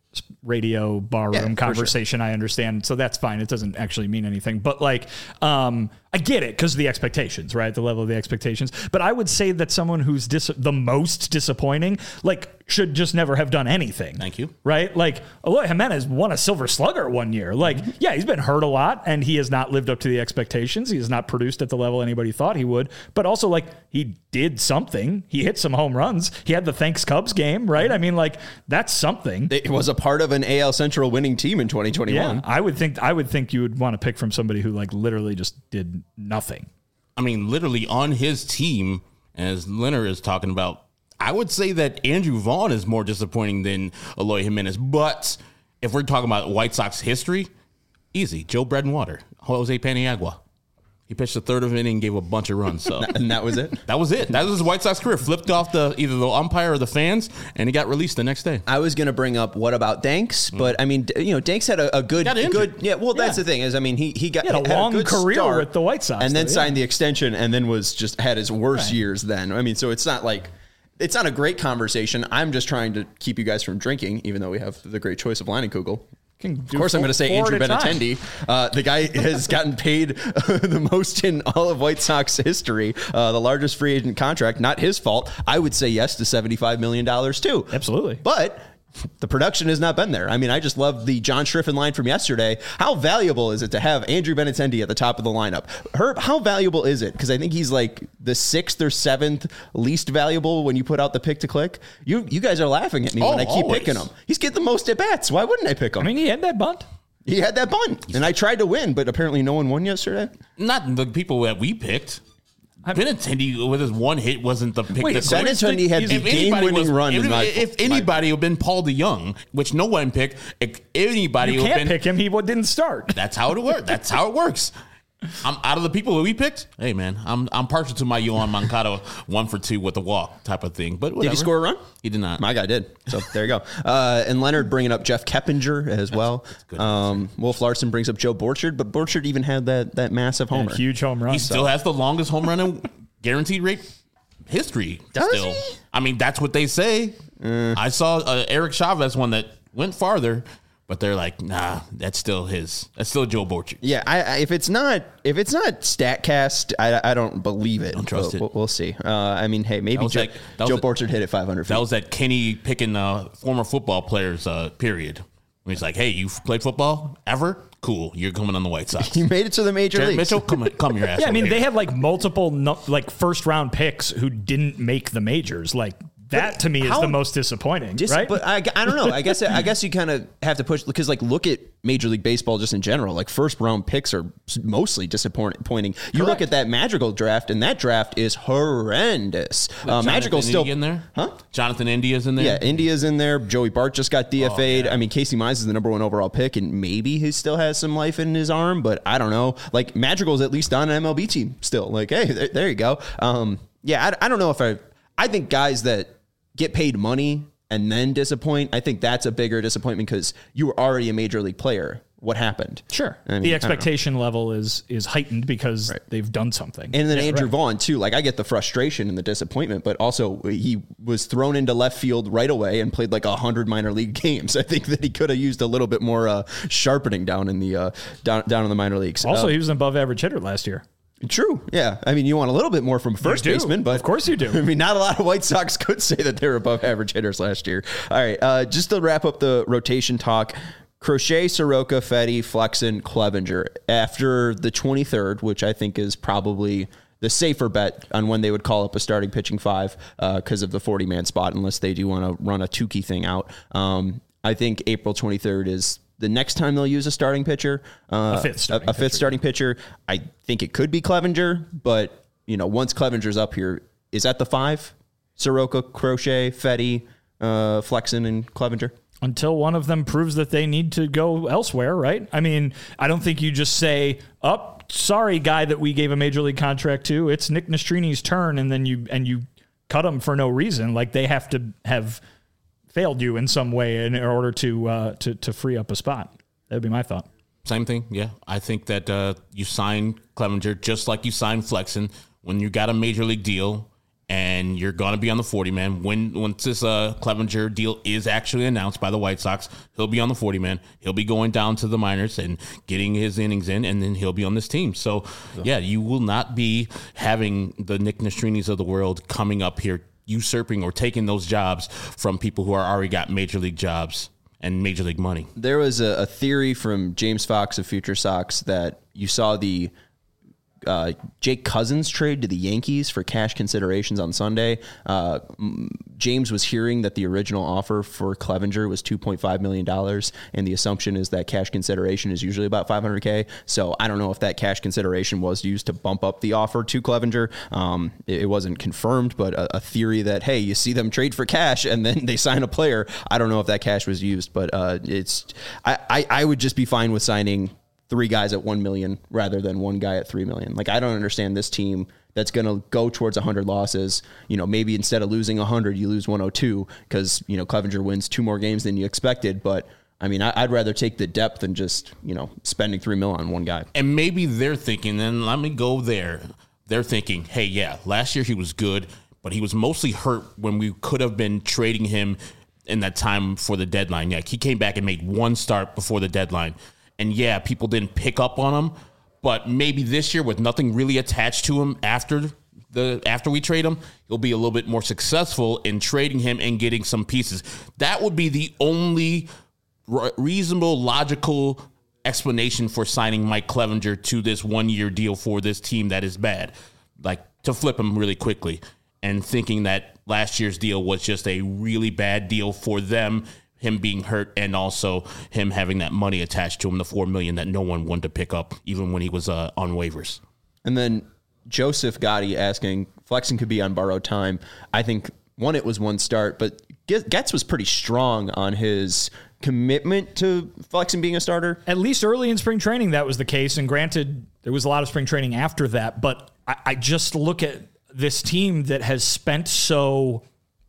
[SPEAKER 2] radio barroom
[SPEAKER 1] Yeah, for
[SPEAKER 2] conversation. I understand. So that's fine. It doesn't actually mean anything. But like, um, I get it because of the expectations, right? The level of the expectations. But I would say that someone who's dis- the most disappointing, like, should just never have done anything.
[SPEAKER 3] Thank you.
[SPEAKER 2] Right? Like, Eloy Jimenez won a Silver Slugger one year. Like, yeah, he's been hurt a lot and he has not lived up to the expectations. He has not produced at the level anybody thought he would. But also, like, he did something. He hit some home runs. He had the Thanks Cubs game, right? I mean, like, that's something.
[SPEAKER 1] It was a part of an A L Central winning team in twenty twenty-one.
[SPEAKER 2] Yeah, I would think I would think you would want to pick from somebody who like literally just did nothing.
[SPEAKER 3] I mean, literally on his team, as Leonard is talking about, I would say that Andrew Vaughn is more disappointing than Eloy Jimenez. But if we're talking about White Sox history, easy. Joe Bread and Water, Jose Paniagua. He pitched the third of an inning and gave a bunch of runs. So
[SPEAKER 1] And that was it?
[SPEAKER 3] that was it. That was his White Sox career. Flipped off the either the umpire or the fans, and he got released the next day.
[SPEAKER 1] I was going to bring up what about Danks, but I mean, d- you know, Danks had a, a good,
[SPEAKER 3] Got injured.
[SPEAKER 1] good, yeah. Well, that's
[SPEAKER 2] Yeah.
[SPEAKER 1] the thing is, I mean, he he got
[SPEAKER 2] He had a long
[SPEAKER 1] good
[SPEAKER 2] career
[SPEAKER 1] start,
[SPEAKER 2] with the White Sox,
[SPEAKER 1] and then
[SPEAKER 2] though, yeah.
[SPEAKER 1] signed the extension, and then was just had his worst
[SPEAKER 2] Right.
[SPEAKER 1] years. Then I mean, so it's not like it's not a great conversation. I'm just trying to keep you guys from drinking, even though we have the great choice of Leinenkugel.
[SPEAKER 2] Of
[SPEAKER 1] Of course, I'm going to say Andrew Benintendi. Uh, the guy has gotten paid the most in all of White Sox history, uh, the largest free agent contract. Not his fault. I would say yes to seventy-five million dollars too.
[SPEAKER 2] Absolutely.
[SPEAKER 1] But the production has not been there. I mean, I just love the John Schriffen line from yesterday. How valuable is it to have Andrew Benintendi at the top of the lineup? Herb, how valuable is it? Because I think he's like the sixth or seventh least valuable when you put out the pick to click. You you guys are laughing at me
[SPEAKER 3] Oh,
[SPEAKER 1] when I keep
[SPEAKER 3] always.
[SPEAKER 1] picking him. He's getting the most at bats. Why wouldn't I pick him?
[SPEAKER 2] I mean, he had that bunt.
[SPEAKER 1] He had that bunt, and I tried to win, but apparently no one won yesterday.
[SPEAKER 3] Not the people that we picked. Benintendi with his one hit wasn't the pick.
[SPEAKER 2] Wait,
[SPEAKER 3] that
[SPEAKER 2] so
[SPEAKER 1] Benintendi had
[SPEAKER 3] If
[SPEAKER 1] the
[SPEAKER 3] anybody
[SPEAKER 1] game-winning
[SPEAKER 3] was-
[SPEAKER 1] run
[SPEAKER 3] If,
[SPEAKER 1] in my-
[SPEAKER 3] if anybody would have been Paul DeYoung, which no one picked, if anybody
[SPEAKER 2] You
[SPEAKER 3] would have
[SPEAKER 2] can't
[SPEAKER 3] been.
[SPEAKER 2] pick him. He didn't start.
[SPEAKER 3] That's how it works. That's how it works. I'm out of the people that we picked. Hey man, I'm I'm partial to my Yohan Moncada one for two with the walk type of thing. But
[SPEAKER 1] Did
[SPEAKER 3] whatever.
[SPEAKER 1] he score a run?
[SPEAKER 3] He did not.
[SPEAKER 1] My guy did. So there you go. Uh, and Leonard bringing up Jeff Keppinger as well.
[SPEAKER 3] good
[SPEAKER 1] Um, Wolf Larson brings up Joe Borchard, but Borchard even had that that massive homer.
[SPEAKER 2] A huge home run.
[SPEAKER 3] He still has the longest home run in guaranteed rate history.
[SPEAKER 1] Does
[SPEAKER 3] still,
[SPEAKER 1] he?
[SPEAKER 3] I mean, that's what they say. I saw uh, Eric Chavez one that went farther, but they're like, nah, that's still his. That's still Joe Borchard.
[SPEAKER 1] Yeah, I, I, if it's not if it's not Statcast, I, I don't believe it.
[SPEAKER 3] Don't trust
[SPEAKER 1] But
[SPEAKER 3] it.
[SPEAKER 1] We'll, we'll see. Uh, I mean, hey, maybe
[SPEAKER 3] was
[SPEAKER 1] Joe,
[SPEAKER 3] like- that was
[SPEAKER 1] Joe
[SPEAKER 3] a-
[SPEAKER 1] Borchard hit it five hundred feet.
[SPEAKER 3] That was that Kenny picking uh, former football players uh, period. When he's like, hey, you played football ever? Cool, you're coming on the White Sox.
[SPEAKER 1] he made it to the major
[SPEAKER 3] Jared
[SPEAKER 1] leagues.
[SPEAKER 3] Mitchell, come come your ass.
[SPEAKER 2] Yeah, I
[SPEAKER 3] over
[SPEAKER 2] mean,
[SPEAKER 3] here.
[SPEAKER 2] they had like multiple no, like first round picks who didn't make the majors. Like that to me is
[SPEAKER 1] how-
[SPEAKER 2] the most disappointing,
[SPEAKER 1] Just,
[SPEAKER 2] right?
[SPEAKER 1] But I, I don't know. I guess I guess you kind of have to push because like look at Major League Baseball just in general. Like first round picks are mostly disappointing. You look
[SPEAKER 2] Correct.
[SPEAKER 1] at that Madrigal draft, and that draft is horrendous. Uh, Madrigal's
[SPEAKER 3] Jonathan
[SPEAKER 1] still
[SPEAKER 3] India in there,
[SPEAKER 1] huh?
[SPEAKER 3] Jonathan India's in there.
[SPEAKER 1] Yeah, India's in there. Joey Bart just got D F A'd.
[SPEAKER 3] Oh, yeah.
[SPEAKER 1] I mean, Casey Mize is the number one overall pick, and maybe he still has some life in his arm, but I don't know. Like Madrigal's at least on an M L B team still. Like, hey, there, there you go. Um, yeah, I, I don't know if I. I think guys that get paid money and then disappoint, I think that's a bigger disappointment because you were already a major league player. What happened?
[SPEAKER 2] sure,
[SPEAKER 1] I mean,
[SPEAKER 2] the
[SPEAKER 1] I don't know.
[SPEAKER 2] expectation level is is heightened because
[SPEAKER 1] Right.
[SPEAKER 2] they've done something.
[SPEAKER 1] And then
[SPEAKER 2] Yeah,
[SPEAKER 1] Andrew
[SPEAKER 2] right.
[SPEAKER 1] Vaughn too. Like I get the frustration and the disappointment, but also he was thrown into left field right away and played like a hundred minor league games. I think that he could have used a little bit more uh, sharpening down in the uh, down down in the minor leagues.
[SPEAKER 2] Also,
[SPEAKER 1] Uh,
[SPEAKER 2] he was an above average hitter last year.
[SPEAKER 1] true. Yeah, I mean you want a little bit more from a first
[SPEAKER 2] do.
[SPEAKER 1] baseman, but
[SPEAKER 2] Of course you do.
[SPEAKER 1] I mean not a lot of White Sox could say that they were above average hitters last year. All right, uh, just to wrap up the rotation talk. Crochet, Soroka, Fetty, Flexen, Clevenger. After the twenty-third, which I think is probably the safer bet on when they would call up a starting pitching five because of the forty-man spot, unless they do want to run a Tukey thing out. Um, I think April twenty-third is the next time they'll use a starting pitcher. Uh,
[SPEAKER 2] A fifth starting
[SPEAKER 1] a, a fifth
[SPEAKER 2] pitcher.
[SPEAKER 1] starting pitcher. I think it could be Clevenger, but you know, once Clevenger's up here, is that the five? Soroka, Crochet, Fetty, uh, Flexen, and Clevenger?
[SPEAKER 2] Until one of them proves that they need to go elsewhere, right? I mean, I don't think you just say, "Up, oh, sorry, guy that we gave a major league contract to. It's Nick Nestrini's turn," and then you and you cut him for no reason. Like they have to have failed you in some way in order to uh, to to free up a spot. That would be my thought.
[SPEAKER 3] Same thing, yeah. I think that uh, you sign Clevenger just like you signed Flexen when you got a major league deal, and you're going to be on the forty-man. When Once this uh, Clevinger deal is actually announced by the White Sox, he'll be on the forty-man. He'll be going down to the minors and getting his innings in, and then he'll be on this team. So, yeah, you will not be having the Nick Nestrinis of the world coming up here usurping or taking those jobs from people who are already got major league jobs and major league money.
[SPEAKER 1] There was a, a theory from James Fox of Future Sox that you saw the uh, Jake Cousins trade to the Yankees for cash considerations on Sunday. Uh, James was hearing that the original offer for Clevinger was two point five million dollars, and the assumption is that cash consideration is usually about five hundred K. So I don't know if that cash consideration was used to bump up the offer to Clevinger. Um, it, it wasn't confirmed, but a, a theory that, hey, you see them trade for cash and then they sign a player. I don't know if that cash was used, but uh, it's I, I, I would just be fine with signing three guys at one million rather than one guy at three million. Like, I don't understand this team that's going to go towards one hundred losses. You know, maybe instead of losing one hundred, you lose one oh two because, you know, Clevinger wins two more games than you expected. But I mean, I'd rather take the depth than just, you know, spending three mil on one guy.
[SPEAKER 3] And maybe they're thinking, and let me go there. They're thinking, hey, yeah, last year he was good, but he was mostly hurt when we could have been trading him in that time for the deadline. Yeah, he came back and made one start before the deadline. And yeah, people didn't pick up on him, but maybe this year with nothing really attached to him after the after we trade him, he'll be a little bit more successful in trading him and getting some pieces. That would be the only re- reasonable, logical explanation for signing Mike Clevinger to this one-year deal for this team that is bad, like to flip him really quickly and thinking that last year's deal was just a really bad deal for them, him being hurt, and also him having that money attached to him, the four million dollars that no one wanted to pick up, even when he was uh, on waivers.
[SPEAKER 1] And then Joseph Gotti asking, Flexen could be on borrowed time. I think, one, it was one start, but Getz was pretty strong on his commitment to Flexen being a starter.
[SPEAKER 2] At least early in spring training, that was the case. And granted, there was a lot of spring training after that, but I, I just look at this team that has spent so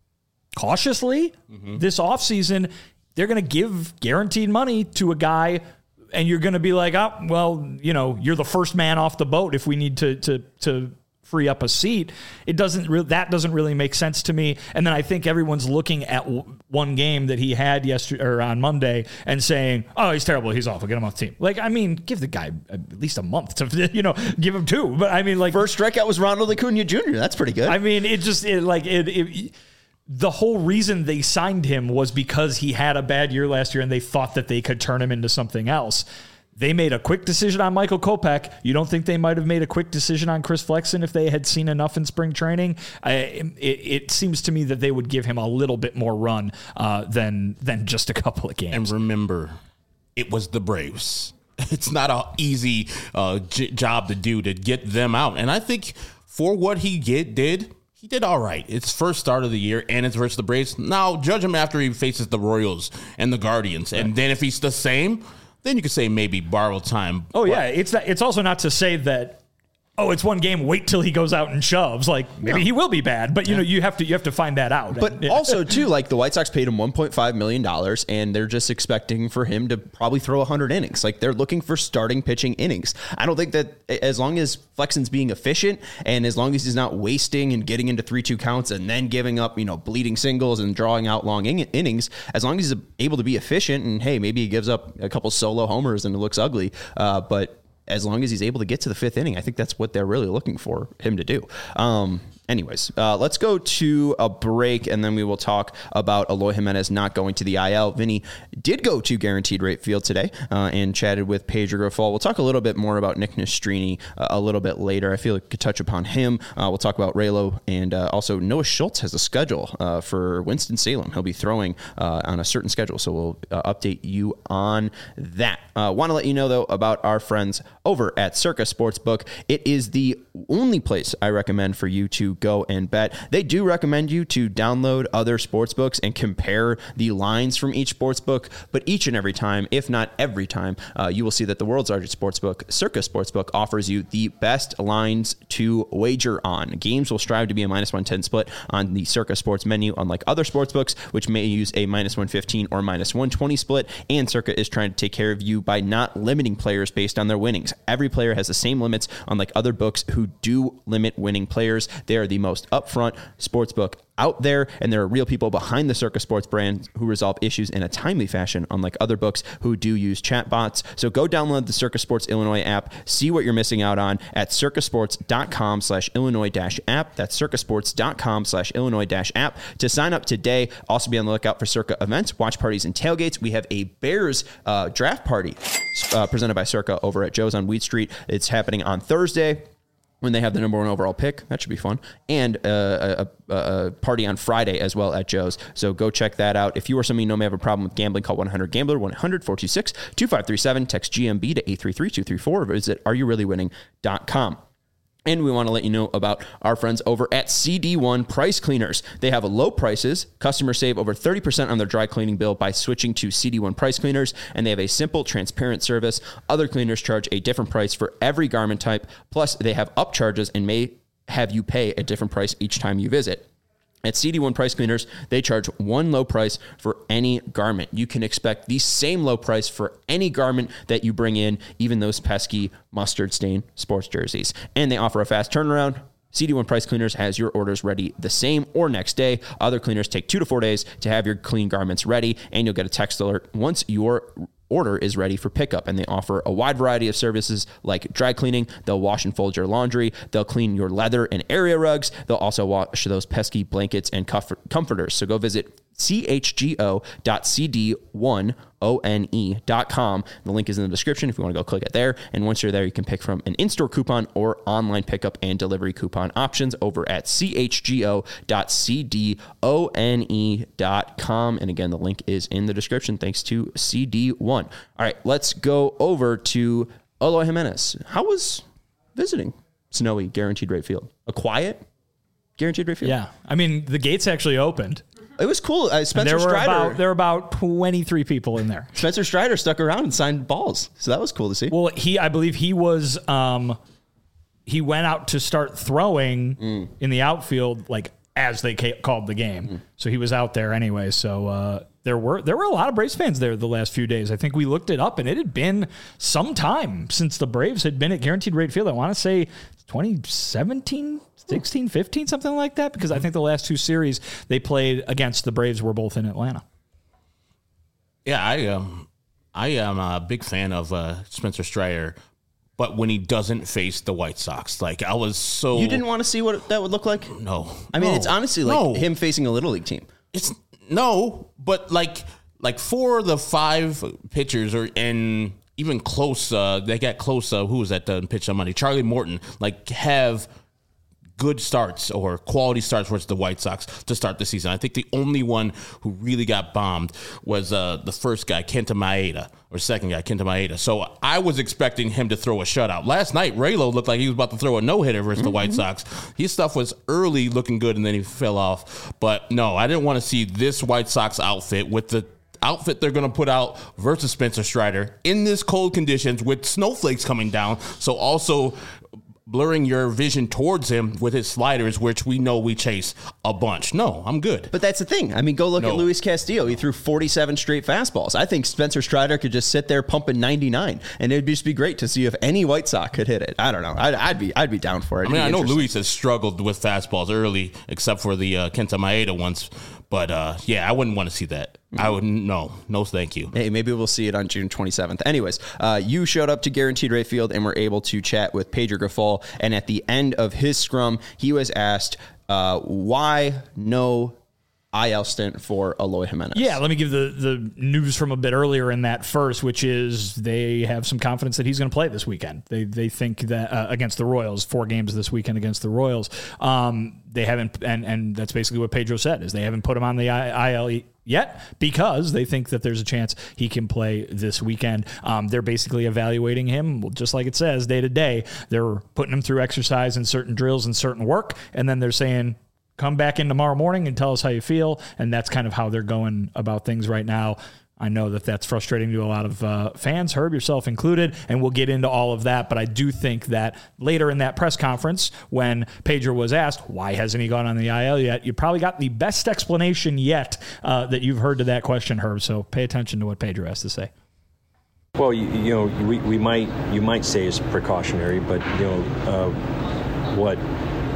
[SPEAKER 2] cautiously mm-hmm. this offseason. They're going to give guaranteed money to a guy, and you're going to be like, oh, well, you know, you're the first man off the boat if we need to to to free up a seat. It doesn't re- that doesn't really make sense to me. And then I think everyone's looking at w- one game that he had yesterday or on Monday and saying, oh, he's terrible, he's off, we'll get him off the team. Like, I mean, give the guy at least a month to, you know, give him two. But I mean, like,
[SPEAKER 1] first strikeout was Ronald Acuna Junior That's pretty good.
[SPEAKER 2] I mean, it just it, like it, it the whole reason they signed him was because he had a bad year last year and they thought that they could turn him into something else. They made a quick decision on Michael Kopech. You don't think they might have made a quick decision on Chris Flexen if they had seen enough in spring training? I, it, it seems to me that they would give him a little bit more run uh, than than just a couple of games.
[SPEAKER 3] And remember, it was the Braves. It's not an easy uh, j- job to do to get them out. And I think for what he get, did, he did all right. It's first start of the year, and it's versus the Braves. Now, judge him after he faces the Royals and the Guardians. And then if he's the same, then you could say maybe borrow time.
[SPEAKER 2] Oh, yeah. It's not, it's also not to say that, oh, it's one game, wait till he goes out and shoves. Like, maybe no. he will be bad, but, you yeah. know, you have to you have to find that out.
[SPEAKER 1] But
[SPEAKER 2] and, yeah.
[SPEAKER 1] also, too, like, the White Sox paid him one point five million dollars, and they're just expecting for him to probably throw one hundred innings. Like, they're looking for starting pitching innings. I don't think that as long as Flexen's being efficient and as long as he's not wasting and getting into three two counts and then giving up, you know, bleeding singles and drawing out long in- innings, as long as he's able to be efficient, and, hey, maybe he gives up a couple solo homers and it looks ugly, uh, but as long as he's able to get to the fifth inning, I think that's what they're really looking for him to do. Um, anyways, uh, let's go to a break, and then we will talk about Eloy Jimenez not going to the I L. Vinny did go to Guaranteed Rate Field today uh, and chatted with Pedro Grifol. We'll talk a little bit more about Nick Nastrini uh, a little bit later. I feel like we could touch upon him. Uh, we'll talk about Raylo, and uh, also Noah Schultz has a schedule uh, for Winston-Salem. He'll be throwing uh, on a certain schedule, so we'll uh, update you on that. Uh, Want to let you know, though, about our friends over at Circa Sportsbook. It is the only place I recommend for you to go and bet. They do recommend you to download other sportsbooks and compare the lines from each sportsbook, but each and every time, if not every time, uh, you will see that the world's largest sportsbook, Circa Sportsbook, offers you the best lines to wager on. Games will strive to be a minus one ten split on the Circa Sports menu, unlike other sportsbooks, which may use a minus one fifteen or minus one twenty split, and Circa is trying to take care of you by not limiting players based on their winnings. Every player has the same limits, unlike other books who do limit winning players. They are the most upfront sportsbook out there, and there are real people behind the Circa Sports brand who resolve issues in a timely fashion, unlike other books who do use chatbots. So go download the Circa Sports Illinois app, see what you're missing out on at circasports.com slash Illinois dash app. That's circasports.com slash Illinois dash app to sign up today. Also be on the lookout for Circa events, watch parties, and tailgates. We have a Bears uh, draft party uh, presented by Circa over at Joe's on Wheat Street. It's happening on Thursday, when they have the number one overall pick. That should be fun. And uh, a, a, a party on Friday as well at Joe's. So go check that out. If you or somebody you know may have a problem with gambling, call one hundred gambler, one hundred four two six two five three seven. Text G M B to eight three three two three four or visit are you really winning dot com. And we want to let you know about our friends over at C D one Price Cleaners. They have low prices. Customers save over thirty percent on their dry cleaning bill by switching to C D one Price Cleaners. And they have a simple, transparent service. Other cleaners charge a different price for every garment type. Plus, they have upcharges and may have you pay a different price each time you visit. At C D one Price Cleaners, they charge one low price for any garment. You can expect the same low price for any garment that you bring in, even those pesky mustard stain sports jerseys. And they offer a fast turnaround. C D one Price Cleaners has your orders ready the same or next day. Other cleaners take two to four days to have your clean garments ready, and you'll get a text alert once your order is ready for pickup. And they offer a wide variety of services like dry cleaning. They'll wash and fold your laundry. They'll clean your leather and area rugs. They'll also wash those pesky blankets and comfort- comforters. So go visit C H G O dot C D one O N E dot com. The link is in the description if you want to go click it there. And once you're there, you can pick from an in-store coupon or online pickup and delivery coupon options over at C H G O dot C D O N E dot com. And again, the link is in the description. Thanks to C D one. All right, let's go over to Eloy Jimenez. How was visiting snowy Guaranteed Rate Field? A quiet Guaranteed Rate Field?
[SPEAKER 2] Yeah. I mean, the gates actually opened.
[SPEAKER 1] It was cool. Uh, Spencer
[SPEAKER 2] there were
[SPEAKER 1] Strider.
[SPEAKER 2] About, there were about twenty-three people in there.
[SPEAKER 1] Spencer Strider stuck around and signed balls, so that was cool to see.
[SPEAKER 2] Well, he, I believe he was, um, he went out to start throwing mm. in the outfield, like as they ca- called the game. Mm. So he was out there anyway. So uh, there were there were a lot of Braves fans there the last few days. I think we looked it up, and it had been some time since the Braves had been at Guaranteed Rate Field. I want to say twenty seventeen. sixteen, fifteen, something like that, because I think the last two series they played against the Braves were both in Atlanta.
[SPEAKER 3] Yeah, I um, I am a big fan of uh, Spencer Strider, but when he doesn't face the White Sox, like I was so
[SPEAKER 1] you didn't want to see what that would look like.
[SPEAKER 3] No,
[SPEAKER 1] I mean
[SPEAKER 3] no,
[SPEAKER 1] it's honestly like
[SPEAKER 3] no.
[SPEAKER 1] him facing a little league team.
[SPEAKER 3] It's no, but like like four of the five pitchers are in even close. Uh, they got close. Uh, who was that uh, pitch on Monday? Charlie Morton. Like have. good starts or quality starts versus the White Sox to start the season. I think the only one who really got bombed was uh, the first guy, Kenta Maeda, or second guy, Kenta Maeda. So I was expecting him to throw a shutout. Last night, Raylo looked like he was about to throw a no-hitter versus mm-hmm. the White Sox. His stuff was early looking good, and then he fell off. But no, I didn't want to see this White Sox outfit with the outfit they're going to put out versus Spencer Strider in this cold conditions with snowflakes coming down. So also blurring your vision towards him with his sliders, which we know we chase a bunch. No, I'm good.
[SPEAKER 1] But that's the thing. I mean, go look
[SPEAKER 3] no.
[SPEAKER 1] at Luis Castillo. He threw forty-seven straight fastballs. I think Spencer Strider could just sit there pumping ninety-nine, and it'd just be great to see if any White Sox could hit it. I don't know. I'd, I'd be I'd be down for it.
[SPEAKER 3] I mean, I know Luis has struggled with fastballs early, except for the uh, Kenta Maeda ones. But, uh, yeah, I wouldn't want to see that. Mm-hmm. I would no, no, thank you.
[SPEAKER 1] Hey, maybe we'll see it on June twenty-seventh. Anyways, uh, you showed up to Guaranteed Rate Field and were able to chat with Pedro Grifol. And at the end of his scrum, he was asked uh, why no I L stint for Eloy Jimenez.
[SPEAKER 2] Yeah, let me give the, the news from a bit earlier in that first, which is they have some confidence that he's going to play this weekend. They they think that uh, against the Royals, four games this weekend against the Royals. Um, they haven't, and and that's basically what Pedro said, is they haven't put him on the I L yet because they think that there's a chance he can play this weekend. Um, they're basically evaluating him, just like it says, day to day. They're putting him through exercise and certain drills and certain work, and then they're saying, come back in tomorrow morning and tell us how you feel. And that's kind of how they're going about things right now. I know that that's frustrating to a lot of uh, fans, Herb, yourself included, and we'll get into all of that. But I do think that later in that press conference, when Pedro was asked, why hasn't he gone on the I L yet, you probably got the best explanation yet uh, that you've heard to that question, Herb. So pay attention to what Pedro has to say.
[SPEAKER 5] Well, you, you know, we, we might you might say it's precautionary, but, you know, uh, what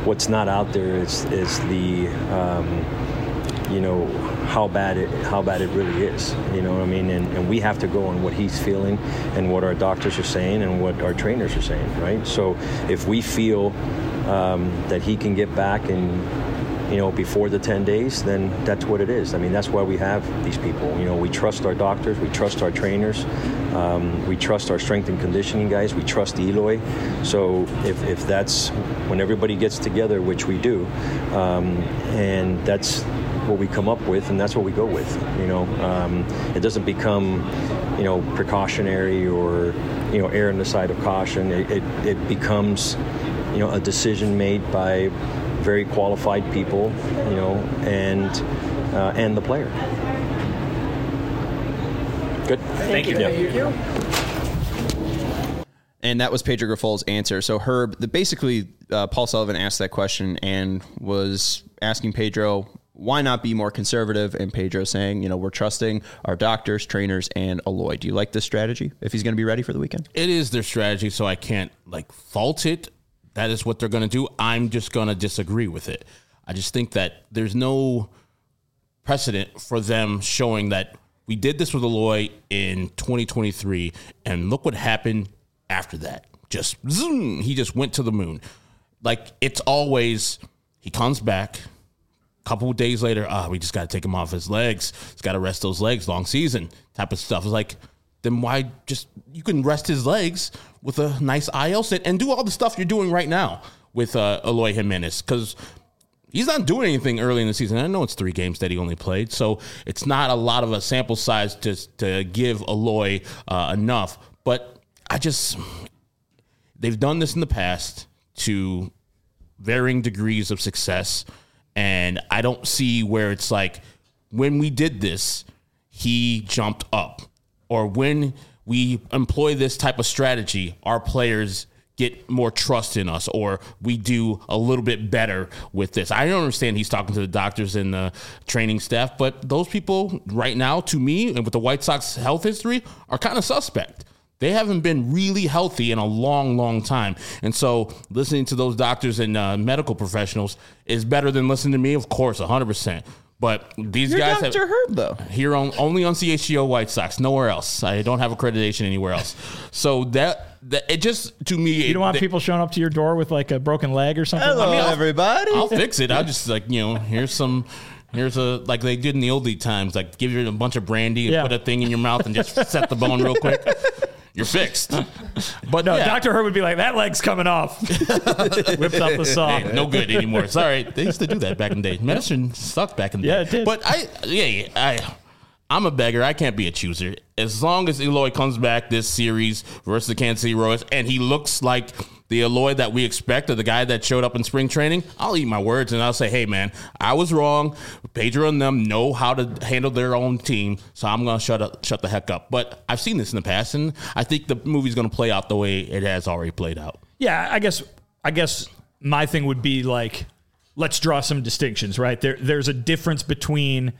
[SPEAKER 5] what's not out there is is the um, you know how bad it how bad it really is. You know what I mean? And, and we have to go on what he's feeling and what our doctors are saying and what our trainers are saying, right? So if we feel um, that he can get back and, you know, before the ten days, then that's what it is. I mean, that's why we have these people. You know, we trust our doctors, we trust our trainers, um, we trust our strength and conditioning guys, we trust Eloy. So if, if that's when everybody gets together, which we do, um, and that's what we come up with, and that's what we go with. You know, um, it doesn't become, you know, precautionary or, you know, err on the side of caution. It, it, it becomes, you know, a decision made by very qualified people, you know, and uh, and the player. Good.
[SPEAKER 2] Thank you.
[SPEAKER 5] Yeah.
[SPEAKER 4] Thank you.
[SPEAKER 1] And that was Pedro Griffol's answer. So Herb, the, basically, uh, Paul Sullivan asked that question and was asking Pedro, why not be more conservative? And Pedro saying, you know, we're trusting our doctors, trainers, and Eloy. Do you like this strategy if he's going to be ready for the weekend?
[SPEAKER 3] It is their strategy, so I can't like fault it. That is what they're going to do. I'm just going to disagree with it. I just think that there's no precedent for them showing that we did this with Eloy in twenty twenty-three, and look what happened after that. Just zoom, he just went to the moon. Like, it's always, he comes back, a couple of days later, ah, oh, we just got to take him off his legs. He's got to rest those legs, long season type of stuff. It's like, then why just, you can rest his legs with a nice I L sit and do all the stuff you're doing right now with uh, Eloy Jimenez, because he's not doing anything early in the season. I know it's three games that he only played, so it's not a lot of a sample size to, to give Eloy uh, enough. But I just, they've done this in the past to varying degrees of success, and I don't see where it's like, when we did this, he jumped up. Or when we employ this type of strategy, our players get more trust in us, or we do a little bit better with this. I don't understand he's talking to the doctors and the training staff, but those people right now, to me, and with the White Sox health history, are kind of suspect. They haven't been really healthy in a long, long time. And so listening to those doctors and uh, medical professionals is better than listening to me, of course, one hundred percent. But these
[SPEAKER 1] You're
[SPEAKER 3] guys
[SPEAKER 1] Doctor
[SPEAKER 3] have
[SPEAKER 1] Herb, though.
[SPEAKER 3] Here on only on C H G O White Sox, nowhere else. I don't have accreditation anywhere else. So that, that it just, to me,
[SPEAKER 2] You don't want
[SPEAKER 3] it,
[SPEAKER 2] people showing up to your door with like a broken leg or something?
[SPEAKER 1] Hello,
[SPEAKER 2] I mean, I'll-
[SPEAKER 1] everybody.
[SPEAKER 3] I'll fix it. I'll just like, you know, here's some, here's a, like they did in the oldie times, like give you a bunch of brandy and
[SPEAKER 2] Yeah.
[SPEAKER 3] put a thing in your mouth and just set the bone real quick. You're fixed. But
[SPEAKER 2] No,
[SPEAKER 3] yeah,
[SPEAKER 2] Doctor Herb would be like, that leg's coming off. Whips out the saw.
[SPEAKER 3] hey, no good anymore. Sorry, they used to do that back in the day. Medicine sucked back in the
[SPEAKER 2] Yeah,
[SPEAKER 3] day.
[SPEAKER 2] it did.
[SPEAKER 3] But I, yeah, I, I'm a beggar. I can't be a chooser. As long as Eloy comes back this series versus the Kansas City Royals, and he looks like the Eloy that we expect, or the guy that showed up in spring training, I'll eat my words and I'll say, hey, man, I was wrong. Pedro and them know how to handle their own team, so I'm going to shut up, shut the heck up. But I've seen this in the past, and I think the movie's going to play out the way it has already played out.
[SPEAKER 2] Yeah, I guess I guess my thing would be like, let's draw some distinctions, right? There, there's a difference between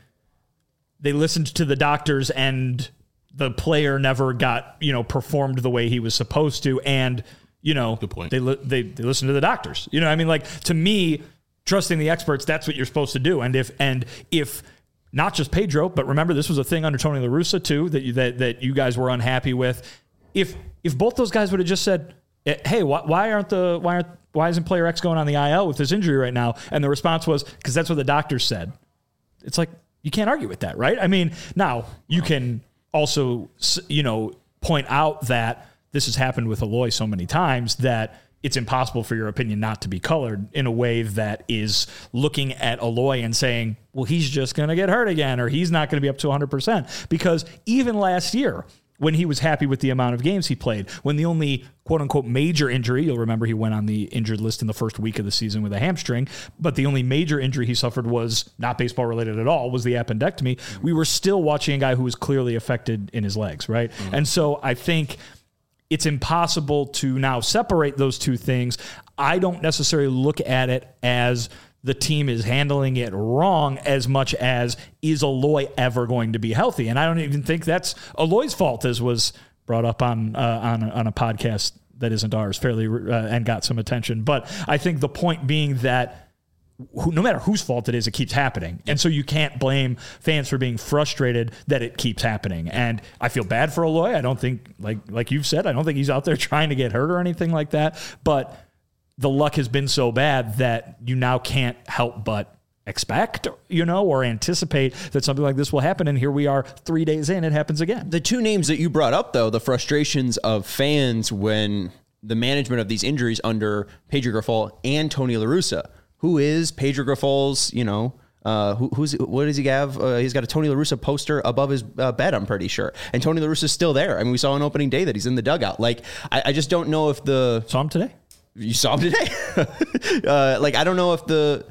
[SPEAKER 2] they listened to the doctors and the player never got, you know, performed the way he was supposed to, and you know,
[SPEAKER 3] Good point.
[SPEAKER 2] they li- they they listen to the doctors. You know, I mean, like, to me, trusting the experts, that's what you're supposed to do. And if and if not just Pedro, but remember, this was a thing under Tony La Russa too that you, that that you guys were unhappy with. If if both those guys would have just said, hey, why, why aren't the why aren't why isn't player X going on the I L with this injury right now? And the response was, because that's what the doctors said. It's like, you can't argue with that, right? I mean, now you can also, you know, point out that this has happened with Eloy so many times that it's impossible for your opinion not to be colored in a way that is looking at Eloy and saying, well, he's just going to get hurt again, or he's not going to be up to one hundred percent. Because even last year, when he was happy with the amount of games he played, when the only quote-unquote major injury, you'll remember he went on the injured list in the first week of the season with a hamstring, but the only major injury he suffered was not baseball-related at all, was the appendectomy. We were still watching a guy who was clearly affected in his legs, right? Mm-hmm. And so I think it's impossible to now separate those two things. I don't necessarily look at it as the team is handling it wrong as much as, is Eloy ever going to be healthy? And I don't even think that's Eloy's fault, as was brought up on uh, on, on a podcast that isn't ours fairly uh, and got some attention. But I think the point being that who, no matter whose fault it is, it keeps happening. And so you can't blame fans for being frustrated that it keeps happening. And I feel bad for Eloy. I don't think, like like you've said, I don't think he's out there trying to get hurt or anything like that. But the luck has been so bad that you now can't help but expect, you know, or anticipate that something like this will happen. And here we are three days in, it happens again.
[SPEAKER 1] The two names that you brought up, though, the frustrations of fans when the management of these injuries under Pedro Grifol and Tony La Russa. Who is Pedro Grifol's, you know, uh, who, who's, what does he have? Uh, he's got a Tony La Russa poster above his uh, bed, I'm pretty sure. And Tony La Russa's still there. I mean, we saw on opening day that he's in the dugout. Like, I, I just don't know if the...
[SPEAKER 2] Saw him today?
[SPEAKER 1] You saw him today? uh, like, I don't know if the,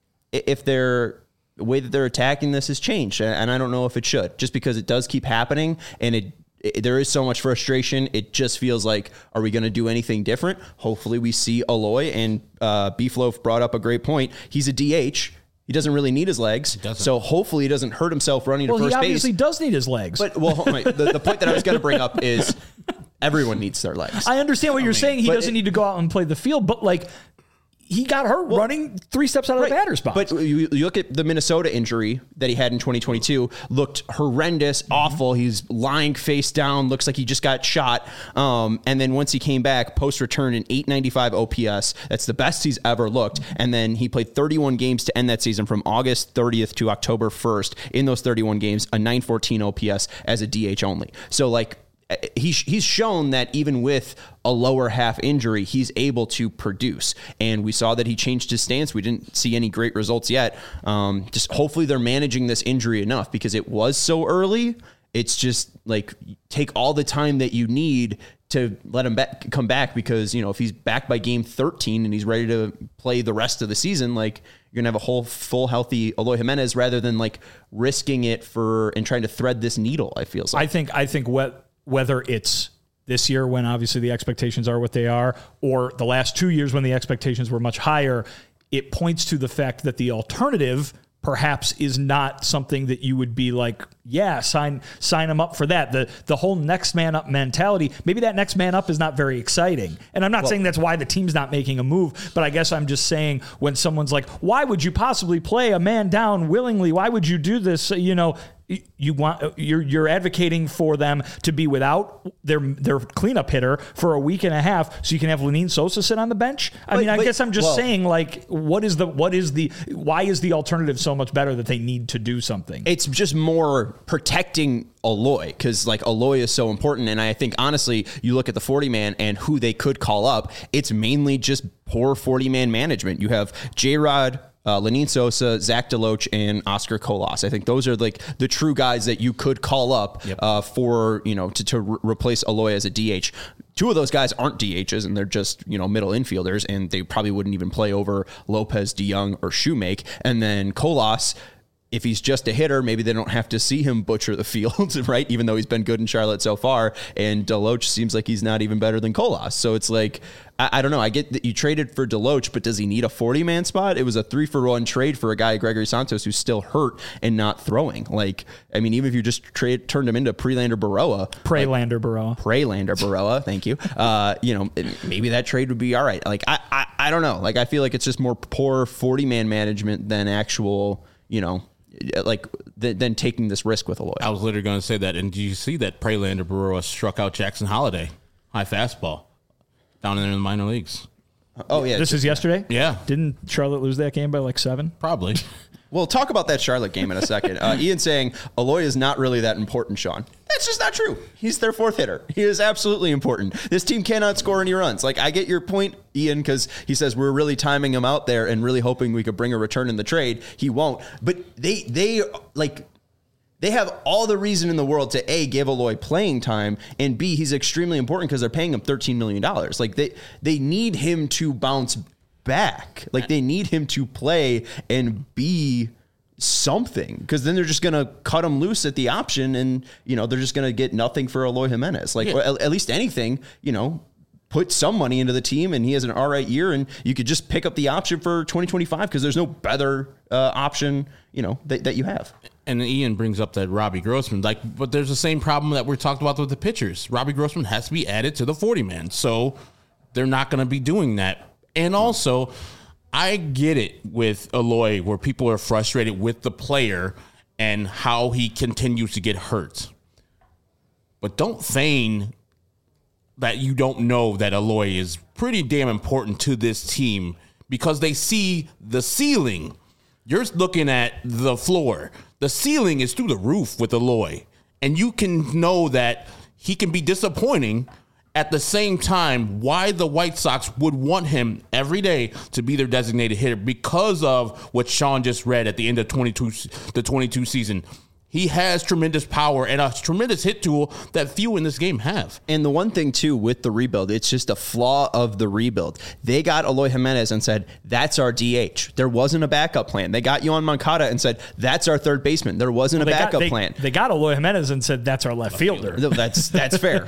[SPEAKER 1] if they're, the way that they're attacking this has changed. And I don't know if it should, just because it does keep happening and it, It, there is so much frustration. It just feels like, are we going to do anything different? Hopefully we see Eloy, and uh, Beefloaf brought up a great point. He's a D H. He doesn't really need his legs. So hopefully he doesn't hurt himself running
[SPEAKER 2] well,
[SPEAKER 1] to first base.
[SPEAKER 2] Well, he obviously base. does need his legs.
[SPEAKER 1] But well, the, the point that I was going to bring up is everyone needs their legs.
[SPEAKER 2] I understand what I you're mean, saying. He doesn't it, need to go out and play the field, but like, he got hurt well, running three steps out of right. the batter's box.
[SPEAKER 1] But you, you look at the Minnesota injury that he had in twenty twenty-two, looked horrendous, mm-hmm. awful. He's lying face down, looks like he just got shot. Um, and then once he came back, post-return an eight ninety-five O P S. That's the best he's ever looked. And then he played thirty-one games to end that season from August thirtieth to October first. In those thirty-one games, a nine fourteen O P S as a D H only. So, like, He's he's shown that even with a lower half injury, he's able to produce. And we saw that he changed his stance. We didn't see any great results yet. Um, just hopefully they're managing this injury enough because it was so early. It's just like take all the time that you need to let him back, come back because, you know, if he's back by game thirteen and he's ready to play the rest of the season, like you're going to have a whole full healthy Eloy Jimenez rather than like risking it for and trying to thread this needle, I feel like.
[SPEAKER 2] I think, I think what, whether it's this year when obviously the expectations are what they are, or the last two years when the expectations were much higher, it points to the fact that the alternative perhaps is not something that you would be like, yeah, sign sign them up for that. The the whole next man up mentality, maybe that next man up is not very exciting. And I'm not well, saying that's why the team's not making a move, but I guess I'm just saying when someone's like, why would you possibly play a man down willingly? Why would you do this? You know, you want you're you're advocating for them to be without their their cleanup hitter for a week and a half, so you can have Lenyn Sosa sit on the bench. I but, mean, I but, guess I'm just well, saying, like, what is the what is the why is the alternative so much better that they need to do something?
[SPEAKER 1] It's just more protecting Eloy because like Eloy is so important, and I think honestly, you look at the forty man and who they could call up. It's mainly just poor forty man management. You have J-Rod, Uh, Lenyn Sosa, Zach DeLoach, and Oscar Colas. I think those are like the true guys that you could call up yep. uh, for, you know, to, to re- replace Eloy as a D H. Two of those guys aren't D Hs and they're just, you know, middle infielders, and they probably wouldn't even play over Lopez, DeYoung, or Shoemake. And then Colas, if he's just a hitter, maybe they don't have to see him butcher the field, right? Even though he's been good in Charlotte so far. And DeLoach seems like he's not even better than Colas. So it's like, I, I don't know. I get that you traded for DeLoach, but does he need a forty man spot? It was a three for one trade for a guy, Gregory Santos, who's still hurt and not throwing. Like, I mean, even if you just trade, turned him into Prelander Baroa.
[SPEAKER 2] Prelander
[SPEAKER 1] like,
[SPEAKER 2] Baroa.
[SPEAKER 1] Prelander Baroa. Thank you. Uh, you know, maybe that trade would be all right. Like, I, I, I don't know. Like, I feel like it's just more poor forty man management than actual, you know, like than taking this risk with Eloy.
[SPEAKER 3] I was literally going to say that. And do you see that Prelander Baroa struck out Jackson Holiday, high fastball, down in the minor leagues?
[SPEAKER 1] Oh yeah,
[SPEAKER 2] this is yesterday.
[SPEAKER 3] Yeah,
[SPEAKER 2] didn't Charlotte lose that game by like seven?
[SPEAKER 3] Probably.
[SPEAKER 1] We'll talk about that Charlotte game in a second. Uh, Ian saying Eloy is not really that important, Sean. That's just not true. He's their fourth hitter. He is absolutely important. This team cannot score any runs. Like, I get your point, Ian, because he says we're really timing him out there and really hoping we could bring a return in the trade. He won't. But they, they like, they have all the reason in the world to A, give Eloy playing time, and B, he's extremely important because they're paying him thirteen million dollars. Like, they, they need him to bounce back. Like, they need him to play and be something, because then they're just going to cut him loose at the option, and, you know, they're just going to get nothing for Eloy Jimenez. Like, yeah. at, at least anything, you know, put some money into the team, and he has an all right year, and you could just pick up the option for twenty twenty-five because there's no better uh, option, you know, that, that you have.
[SPEAKER 3] And Ian brings up that Robbie Grossman, like, but there's the same problem that we're talking about with the pitchers. Robbie Grossman has to be added to the forty man. So they're not going to be doing that. And also, I get it with Eloy where people are frustrated with the player and how he continues to get hurt. But don't feign that you don't know that Eloy is pretty damn important to this team because they see the ceiling. You're looking at the floor. The ceiling is through the roof with Eloy. And you can know that he can be disappointing. At the same time, why the White Sox would want him every day to be their designated hitter because of what Sean just read at the end of twenty-two, the twenty-two season. He has tremendous power and a tremendous hit tool that few in this game have.
[SPEAKER 1] And the one thing, too, with the rebuild, it's just a flaw of the rebuild. They got Eloy Jimenez and said, that's our D H. There wasn't a backup plan. They got Yohan Moncada and said, that's our third baseman. There wasn't
[SPEAKER 2] well,
[SPEAKER 1] a backup
[SPEAKER 2] got, they,
[SPEAKER 1] plan.
[SPEAKER 2] They got Eloy Jimenez and said, that's our left fielder.
[SPEAKER 1] That's that's fair.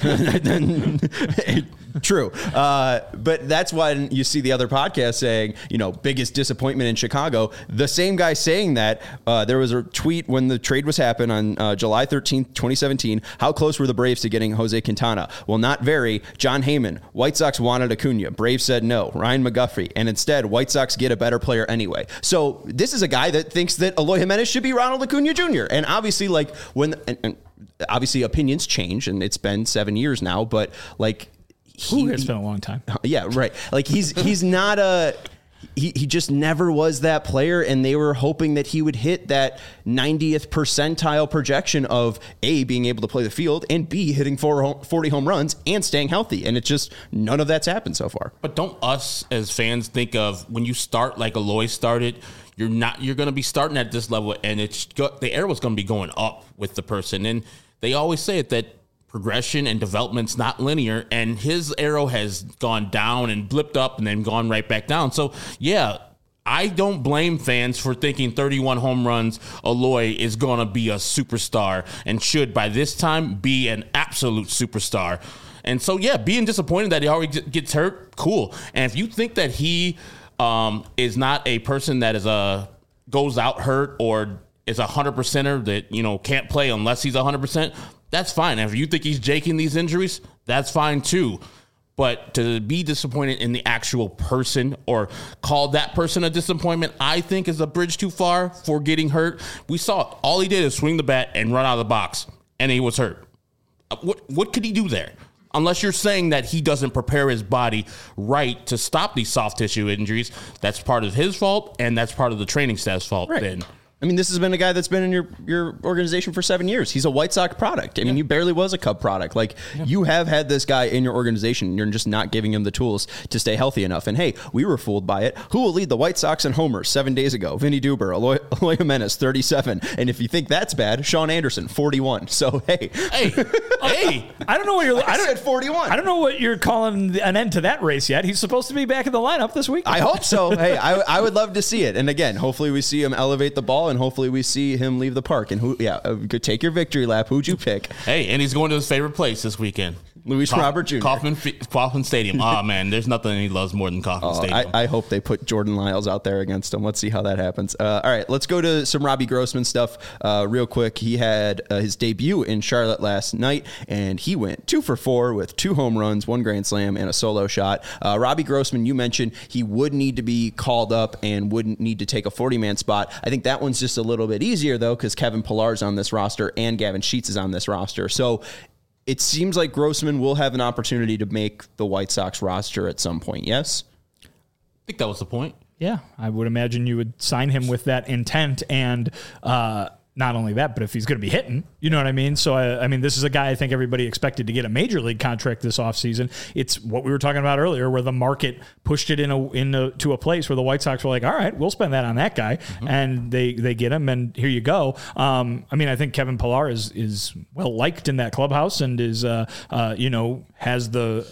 [SPEAKER 1] True. Uh, but that's why you see the other podcast saying, you know, biggest disappointment in Chicago. The same guy saying that, uh, there was a tweet when the trade was happening on uh, July thirteenth, twenty seventeen. How close were the Braves to getting Jose Quintana? Well, not very. John Heyman, White Sox wanted Acuna. Braves said no. Ryan McGuffey. And instead, White Sox get a better player anyway. So this is a guy that thinks that Eloy Jimenez should be Ronald Acuna Junior And obviously, like, when, and, and obviously opinions change, and it's been seven years now, but like,
[SPEAKER 2] He, Ooh, it's been a long time.
[SPEAKER 1] Yeah, right. Like he's he's not a he he just never was that player, and they were hoping that he would hit that ninetieth percentile projection of A, being able to play the field, and B, hitting forty home runs and staying healthy. And it's just none of that's happened so far.
[SPEAKER 3] But don't us as fans think of when you start like Eloy started, you're not you're going to be starting at this level, and it's the arrow is going to be going up with the person. And they always say it that progression and development's not linear, and his arrow has gone down and blipped up and then gone right back down. So yeah, I don't blame fans for thinking thirty-one home runs Eloy is going to be a superstar and should by this time be an absolute superstar. And so yeah, being disappointed that he already gets hurt, cool. And if you think that he um, is not a person that is a goes out hurt or is a hundred percenter that, you know, can't play unless he's a hundred percent, that's fine. And if you think he's jaking these injuries, that's fine too. But to be disappointed in the actual person or call that person a disappointment, I think is a bridge too far for getting hurt. We saw all he did is swing the bat and run out of the box, and he was hurt. What what could he do there? Unless you're saying that he doesn't prepare his body right to stop these soft tissue injuries, that's part of his fault, and that's part of the training staff's fault.
[SPEAKER 1] Right.
[SPEAKER 3] Then.
[SPEAKER 1] I mean, this has been a guy that's been in your, your organization for seven years. He's a White Sox product. I mean, he barely was a Cub product. Like, yeah. You have had this guy in your organization, and you're just not giving him the tools to stay healthy enough. And, hey, we were fooled by it. Who will lead the White Sox in homers seven days ago? Vinny Duber, Eloy, Eloy Jimenez, thirty-seven. And if you think that's bad, Sean Anderson, forty-one. So, hey.
[SPEAKER 3] Hey, hey.
[SPEAKER 2] I don't know what you're...
[SPEAKER 1] I,
[SPEAKER 2] I don't,
[SPEAKER 1] said forty-one.
[SPEAKER 2] I don't know what you're calling an end to that race yet. He's supposed to be back in the lineup this week.
[SPEAKER 1] I hope so. Hey, I, I would love to see it. And, again, hopefully we see him elevate the ball, and hopefully we see him leave the park. And who, yeah, uh, could take your victory lap. Who'd you pick?
[SPEAKER 3] Hey, and he's going to his favorite place this weekend.
[SPEAKER 1] Luis
[SPEAKER 3] Kauf-
[SPEAKER 1] Robert Junior
[SPEAKER 3] Kauffman, Kauffman Stadium. Oh, man, there's nothing he loves more than Kauffman
[SPEAKER 1] oh,
[SPEAKER 3] Stadium.
[SPEAKER 1] I, I hope they put Jordan Lyles out there against him. Let's see how that happens. Uh, all right, let's go to some Robbie Grossman stuff uh, real quick. He had uh, his debut in Charlotte last night, and he went two for four with two home runs, one grand slam, and a solo shot. Uh, Robbie Grossman, you mentioned he would need to be called up and wouldn't need to take a forty-man spot. I think that one's just a little bit easier, though, because Kevin Pillar's on this roster and Gavin Sheets is on this roster. So it seems like Grossman will have an opportunity to make the White Sox roster at some point, yes?
[SPEAKER 3] I think that was the point.
[SPEAKER 2] Yeah, I would imagine you would sign him with that intent, and uh, not only that, but if he's going to be hitting, you know what I mean? So, I, I mean, this is a guy I think everybody expected to get a major league contract this offseason. It's what we were talking about earlier, where the market pushed it in a, in a, to a place where the White Sox were like, all right, we'll spend that on that guy, mm-hmm. and they they get him, and here you go. Um, I mean, I think Kevin Pillar is is well liked in that clubhouse, and is uh, uh, you know has the.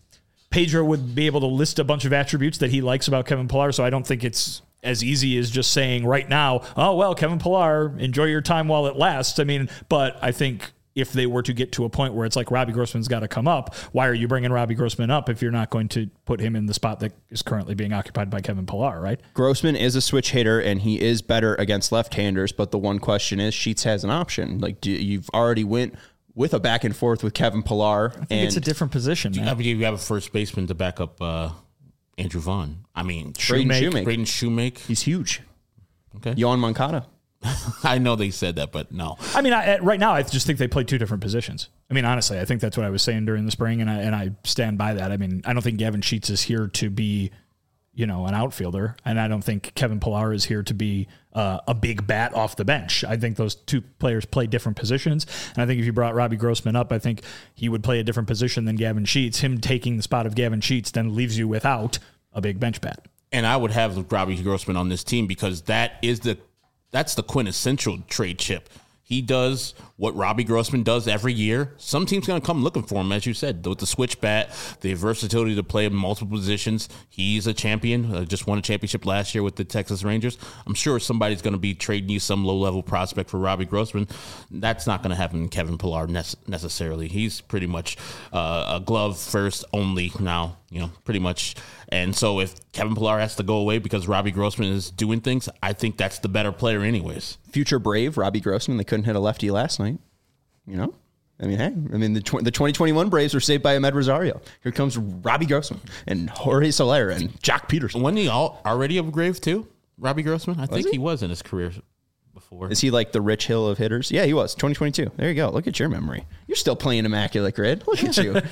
[SPEAKER 2] Pedro would be able to list a bunch of attributes that he likes about Kevin Pillar, so I don't think it's as easy as just saying right now, oh, well, Kevin Pillar, enjoy your time while it lasts. I mean, but I think if they were to get to a point where it's like Robbie Grossman's got to come up, why are you bringing Robbie Grossman up if you're not going to put him in the spot that is currently being occupied by Kevin Pillar, right?
[SPEAKER 1] Grossman is a switch hitter, and he is better against left-handers, but the one question is Sheets has an option. Like, do, you've already went with a back and forth with Kevin Pillar.
[SPEAKER 2] I think
[SPEAKER 1] and
[SPEAKER 2] it's a different position, man.
[SPEAKER 3] I mean, you have a first baseman to back up uh, Andrew Vaughn. I mean,
[SPEAKER 1] Braden
[SPEAKER 2] Shoemake.
[SPEAKER 1] Shoemake.
[SPEAKER 3] Braden Shoemake.
[SPEAKER 1] He's huge.
[SPEAKER 3] Okay.
[SPEAKER 1] Yohan Moncada.
[SPEAKER 3] I know they said that, but no.
[SPEAKER 2] I mean, I, right now, I just think they play two different positions. I mean, honestly, I think that's what I was saying during the spring, and I and I stand by that. I mean, I don't think Gavin Sheets is here to be, you know, an outfielder, and I don't think Kevin Pillar is here to be uh, a big bat off the bench. I think those two players play different positions, and I think if you brought Robbie Grossman up, I think he would play a different position than Gavin Sheets. Him taking the spot of Gavin Sheets then leaves you without a big bench bat.
[SPEAKER 3] And I would have Robbie Grossman on this team because that is the that's the quintessential trade chip. He does what Robbie Grossman does every year. Some team's going to come looking for him, as you said, with the switch bat, the versatility to play in multiple positions. He's a champion, uh, just won a championship last year with the Texas Rangers. I'm sure somebody's going to be trading you some low-level prospect for Robbie Grossman. That's not going to happen in Kevin Pillar ne- necessarily. He's pretty much uh, a glove first only now, you know, pretty much. And so if Kevin Pillar has to go away because Robbie Grossman is doing things, I think that's the better player anyways.
[SPEAKER 1] Future Brave, Robbie Grossman. They couldn't hit a lefty last night. You know? I mean, hey, I mean, the tw- the twenty twenty-one Braves were saved by Ahmed Rosario. Here comes Robbie Grossman and Jorge Soler and Jock Peterson.
[SPEAKER 3] Wasn't he all, already a Grave too, Robbie Grossman? I think
[SPEAKER 1] he?
[SPEAKER 3] he was in his career before.
[SPEAKER 1] Is he like the Rich Hill of hitters? Yeah, he was. twenty twenty-two. There you go. Look at your memory. You're still playing Immaculate Grid. Look at you.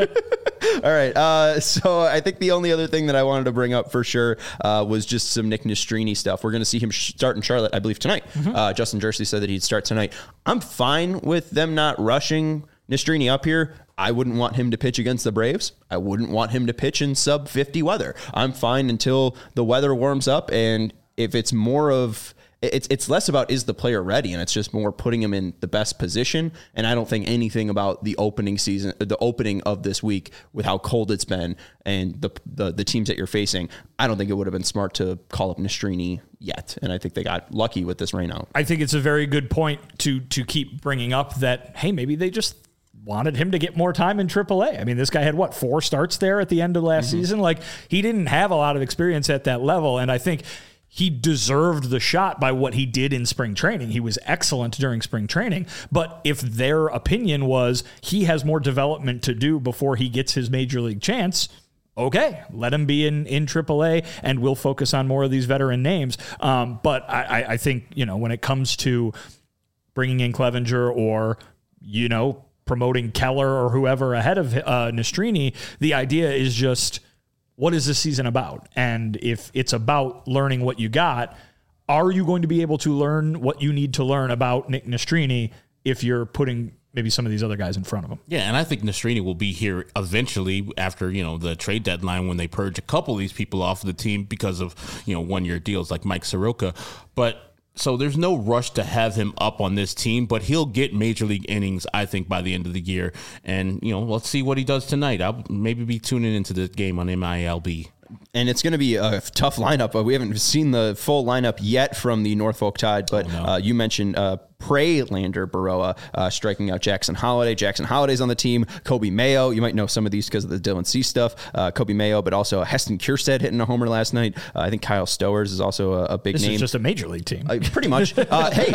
[SPEAKER 1] All right. Uh, so I think the only other thing that I wanted to bring up for sure uh, was just some Nick Nastrini stuff. We're going to see him start in Charlotte, I believe, tonight. Mm-hmm. Uh, Justin Jersey said that he'd start tonight. I'm fine with them not rushing Nastrini up here. I wouldn't want him to pitch against the Braves. I wouldn't want him to pitch in sub fifty weather. I'm fine until the weather warms up. And if it's more of... It's it's less about is the player ready, and it's just more putting him in the best position. And I don't think anything about the opening season, the opening of this week, with how cold it's been and the the, the teams that you're facing. I don't think it would have been smart to call up Nastrini yet, and I think they got lucky with this rain out.
[SPEAKER 2] I think it's a very good point to to keep bringing up that hey, maybe they just wanted him to get more time in triple A. I mean, this guy had what four starts there at the end of last mm-hmm. season. Like he didn't have a lot of experience at that level, and I think he deserved the shot by what he did in spring training. He was excellent during spring training. But if their opinion was he has more development to do before he gets his major league chance, okay, let him be in, in triple A and we'll focus on more of these veteran names. Um, but I, I think, you know, when it comes to bringing in Clevenger or, you know, promoting Keller or whoever ahead of uh, Nastrini, the idea is just, what is this season about? And if it's about learning what you got, are you going to be able to learn what you need to learn about Nick Nastrini if you're putting maybe some of these other guys in front of him?
[SPEAKER 3] Yeah, and I think Nastrini will be here eventually after, you know, the trade deadline when they purge a couple of these people off of the team because of, you know, one-year deals like Mike Soroka. But so there's no rush to have him up on this team, but he'll get major league innings, I think, by the end of the year. And, you know, let's see what he does tonight. I'll maybe be tuning into the game on M I L B.
[SPEAKER 1] And it's going to be a tough lineup. But we haven't seen the full lineup yet from the Norfolk Tide. But oh, no. uh, you mentioned uh, Prelander Baroa uh, striking out Jackson Holiday. Jackson Holiday's on the team. Kobe Mayo. You might know some of these because of the Dylan C stuff. Uh, Kobe Mayo, but also Heston Kjerstad hitting a homer last night. Uh, I think Kyle Stowers is also a, a big
[SPEAKER 2] this
[SPEAKER 1] name.
[SPEAKER 2] This is just a major league team.
[SPEAKER 1] Uh, pretty much. Uh, hey,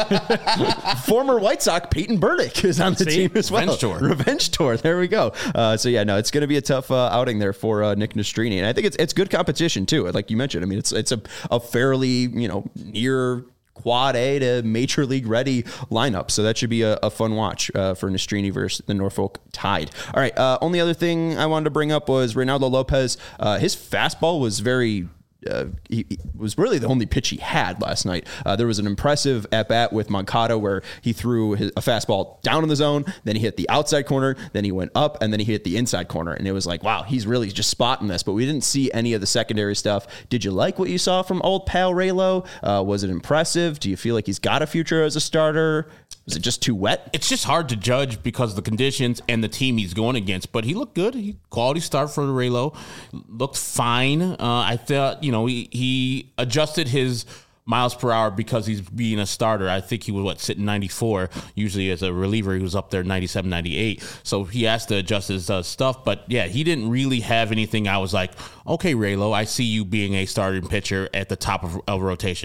[SPEAKER 1] former White Sox Peyton Burdick is on the
[SPEAKER 2] See?
[SPEAKER 1] team as well.
[SPEAKER 3] Revenge tour.
[SPEAKER 1] Revenge tour. There we go. Uh, so, yeah, no, it's going to be a tough uh, outing there for uh, Nick Nastrini. And I think it's it's good competition, too. Like you mentioned, I mean, it's it's a, a fairly, you know, near quad A to major league ready lineup. So that should be a, a fun watch uh, for Nastrini versus the Norfolk Tide. All right. Uh, only other thing I wanted to bring up was Reynaldo Lopez. Uh, his fastball was very... Uh, he, he was really the only pitch he had last night. Uh, there was an impressive at-bat with Moncada where he threw his, a fastball down in the zone, then he hit the outside corner, then he went up, and then he hit the inside corner. And it was like, wow, he's really just spotting this. But we didn't see any of the secondary stuff. Did you like what you saw from old pal Raylo? Uh, was it impressive? Do you feel like he's got a future as a starter? Was it just too wet?
[SPEAKER 3] It's just hard to judge because of the conditions and the team he's going against. But he looked good. He quality start for Raylo. Looked fine. Uh, I thought, you know, he, he adjusted his miles per hour because he's being a starter. I think he was, what, sitting ninety-four. Usually as a reliever, he was up there ninety-seven, ninety-eight. So he has to adjust his uh, stuff. But, yeah, he didn't really have anything. I was like, okay, Raylo, I see you being a starting pitcher at the top of a rotation.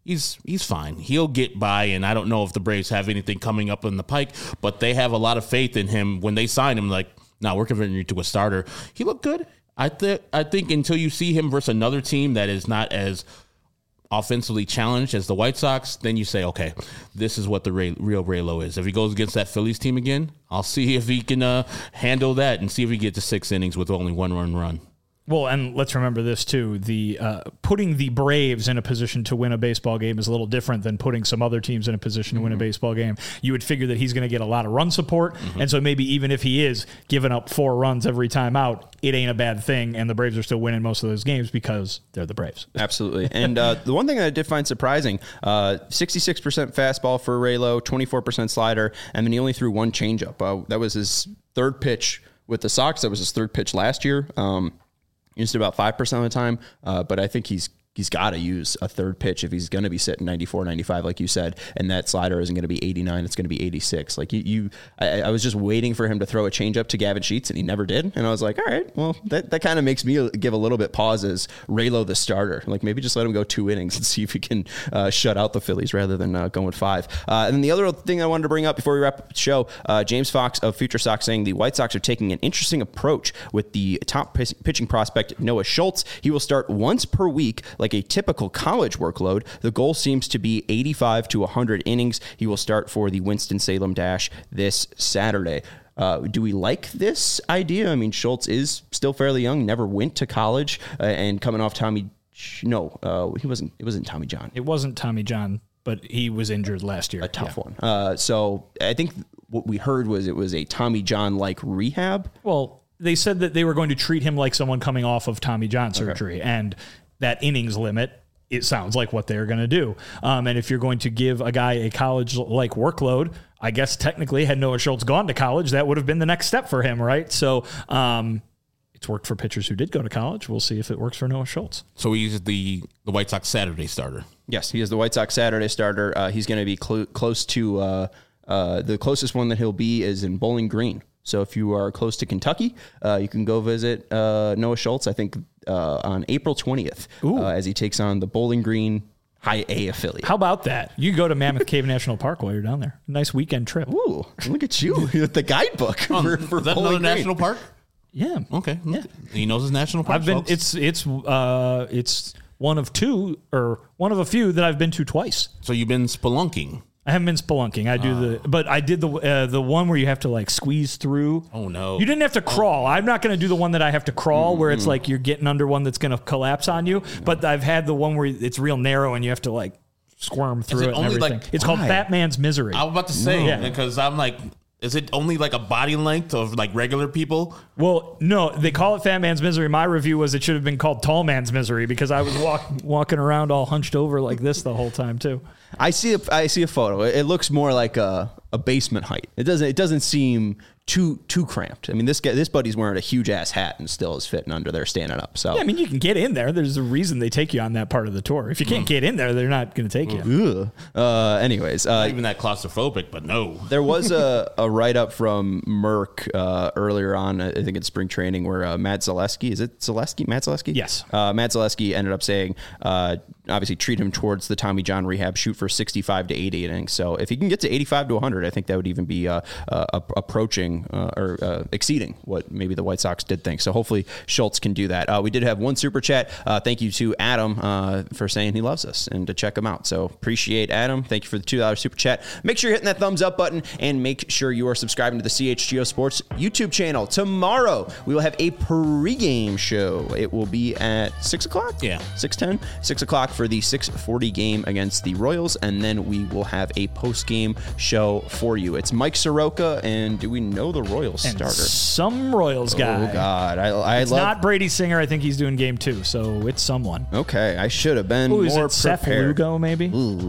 [SPEAKER 3] he's he's fine. He'll get by, and I don't know if the Braves have anything coming up in the pike, but they have a lot of faith in him when they sign him. Like, no, we're converting you to a starter. He looked good. I think I think until you see him versus another team that is not as offensively challenged as the White Sox, then you say, okay, this is what the Ray, real Raylo is. If he goes against that Phillies team again, I'll see if he can uh, handle that and see if he gets to six innings with only one run run.
[SPEAKER 2] Well, and let's remember this, too. The uh, putting the Braves in a position to win a baseball game is a little different than putting some other teams in a position to win a baseball game. You would figure that he's going to get a lot of run support, mm-hmm. and so maybe even if he is giving up four runs every time out, it ain't a bad thing, and the Braves are still winning most of those games because they're the Braves.
[SPEAKER 1] Absolutely. And uh, the one thing that I did find surprising, uh, sixty-six percent fastball for Raylo, twenty-four percent slider, and then he only threw one changeup. Uh, that was his third pitch with the Sox. That was his third pitch last year. Um, Used it about five percent of the time, uh, but I think he's he's got to use a third pitch if he's going to be sitting ninety-four, ninety-five, like you said, and that slider isn't going to be eighty-nine, it's going to be eighty-six. Like you, you I, I was just waiting for him to throw a changeup to Gavin Sheets, and he never did. And I was like, all right, well, that, that kind of makes me give a little bit pause as Raylo the starter. Like maybe just let him go two innings and see if he can uh, shut out the Phillies rather than uh, going five. Uh, and then the other thing I wanted to bring up before we wrap up the show, uh, James Fox of Future Sox saying the White Sox are taking an interesting approach with the top p- pitching prospect Noah Schultz. He will start once per week like a typical college workload. The goal seems to be eighty-five to one hundred innings. He will start for the Winston-Salem Dash this Saturday. Uh, do we like this idea? I mean, Schultz is still fairly young, never went to college, uh, and coming off Tommy, no, uh, he wasn't, it wasn't Tommy John.
[SPEAKER 2] It wasn't Tommy John, but he was injured last year.
[SPEAKER 1] A tough
[SPEAKER 2] yeah.
[SPEAKER 1] one. Uh, so I think what we heard was it was a Tommy John-like rehab.
[SPEAKER 2] Well, they said that they were going to treat him like someone coming off of Tommy John surgery, okay. and that innings limit, it sounds like what they're going to do. Um, and if you're going to give a guy a college-like workload, I guess technically had Noah Schultz gone to college, that would have been the next step for him, right? So um, it's worked for pitchers who did go to college. We'll see if it works for Noah Schultz.
[SPEAKER 3] So he's the, the White Sox Saturday starter.
[SPEAKER 1] Yes, he is the White Sox Saturday starter. Uh, he's going to be cl- close to uh, uh, the closest one that he'll be is in Bowling Green. So if you are close to Kentucky, uh, you can go visit uh, Noah Schultz, I think, uh, on April twentieth uh, as he takes on the Bowling Green High A affiliate.
[SPEAKER 2] How about that? You go to Mammoth Cave National Park while you're down there. Nice weekend trip.
[SPEAKER 1] Ooh, look at you with the guidebook.
[SPEAKER 3] Um,
[SPEAKER 1] for, for
[SPEAKER 3] is that
[SPEAKER 1] Bowling
[SPEAKER 3] another
[SPEAKER 1] Green.
[SPEAKER 3] national park?
[SPEAKER 2] Yeah.
[SPEAKER 3] Okay.
[SPEAKER 2] Yeah.
[SPEAKER 3] He knows his national park.
[SPEAKER 2] I've been.
[SPEAKER 3] Folks.
[SPEAKER 2] It's it's uh it's one of two or one of a few that I've been to twice.
[SPEAKER 3] So you've been spelunking.
[SPEAKER 2] I haven't been spelunking. I do uh, the, but I did the uh, the one where you have to like squeeze through.
[SPEAKER 3] Oh no!
[SPEAKER 2] You didn't have to crawl. I'm not going to do the one that I have to crawl, mm-hmm. where it's like you're getting under one that's going to collapse on you. No. But I've had the one where it's real narrow and you have to like squirm through
[SPEAKER 3] it
[SPEAKER 2] it. And
[SPEAKER 3] only
[SPEAKER 2] everything.
[SPEAKER 3] like-
[SPEAKER 2] It's
[SPEAKER 1] Why?
[SPEAKER 2] called Fat Man's Misery.
[SPEAKER 3] I was about to say
[SPEAKER 2] Yeah.
[SPEAKER 3] because I'm like, is it only like a body length of like regular people?
[SPEAKER 2] Well, no, they call it Fat Man's Misery. My review was it should have been called Tall Man's Misery because I was walk, walking around all hunched over like this the whole time too.
[SPEAKER 1] I see a I see a photo. It looks more like a, a basement height. It doesn't it doesn't seem too too cramped. I mean, this guy this buddy's wearing a huge ass hat and still is fitting under there standing up. So
[SPEAKER 2] Yeah, I mean, you can get in there. There's a reason they take you on that part of the tour. If you can't get in there, they're not going to take you.
[SPEAKER 1] Ugh. Uh, anyways, uh,
[SPEAKER 3] Not even that claustrophobic, but no.
[SPEAKER 1] there was a, a write up from Merck uh, earlier on, I think in spring training, where uh, Matt Zaleski, is it Zaleski? Matt Zaleski?
[SPEAKER 2] Yes.
[SPEAKER 1] Uh, Matt Zaleski ended up saying, uh, obviously, treat him towards the Tommy John rehab, shoot for sixty-five to eighty innings. So if he can get to eighty-five to one hundred, I think that would even be uh, uh, approaching uh, or uh, exceeding what maybe the White Sox did think. So hopefully Schultz can do that. Uh, we did have one super chat. Uh, thank you to Adam uh, for saying he loves us and to check him out. So appreciate Adam. Thank you for the two dollars super chat. Make sure you're hitting that thumbs up button and make sure you are subscribing to the C H G O Sports YouTube channel. Tomorrow we will have a pregame show. It will be at six o'clock.
[SPEAKER 3] Yeah.
[SPEAKER 1] six ten, six o'clock for the six forty game against the Royals, and then we will have a post-game show for you. It's Mike Soroka, and do we know the Royals
[SPEAKER 2] And
[SPEAKER 1] starter?
[SPEAKER 2] some Royals guy.
[SPEAKER 1] Oh, God. I, I
[SPEAKER 2] It's
[SPEAKER 1] love...
[SPEAKER 2] not Brady Singer. I think he's doing game two, so it's someone.
[SPEAKER 1] Okay, I should have been
[SPEAKER 2] Who is
[SPEAKER 1] more
[SPEAKER 2] it? Seth
[SPEAKER 1] prepared.
[SPEAKER 2] Lugo, maybe?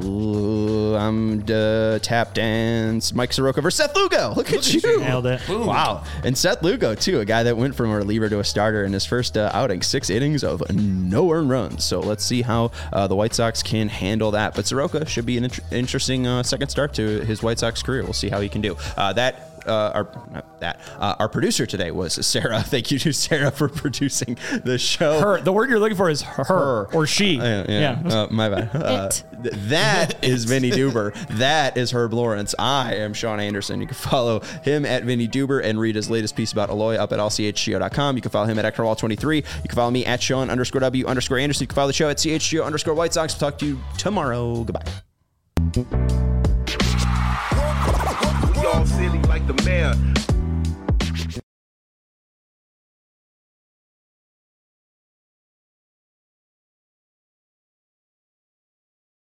[SPEAKER 1] Ooh, I'm uh, tap dance. Mike Soroka versus Seth Lugo. Look, at you.
[SPEAKER 2] Nailed it.
[SPEAKER 3] Boom.
[SPEAKER 1] Wow. And Seth Lugo, too, a guy that went from a reliever to a starter in his first uh, outing. Six innings of no earned runs. So let's see how uh, the White Sox can handle that. But Soroka should be an int- interesting uh, second start to his White Sox career. We'll see how he can do. Uh, that uh, our not that uh, our producer today was Sarah. Thank you to Sarah for producing the show.
[SPEAKER 2] Her. The word you're looking for is her, her. or she.
[SPEAKER 1] Uh, yeah, yeah. Uh, my bad. Uh, th- that is Vinny Duber. That is Herb Lawrence. I am Sean Anderson. You can follow him at Vinny Duber and read his latest piece about Eloy up at L C H G O dot com. You can follow him at Ectorwall twenty-three. You can follow me at Sean underscore W underscore Anderson. You can follow the show at C H G O underscore White Sox. We'll talk to you tomorrow. Goodbye.
[SPEAKER 6] We all silly like the mayor.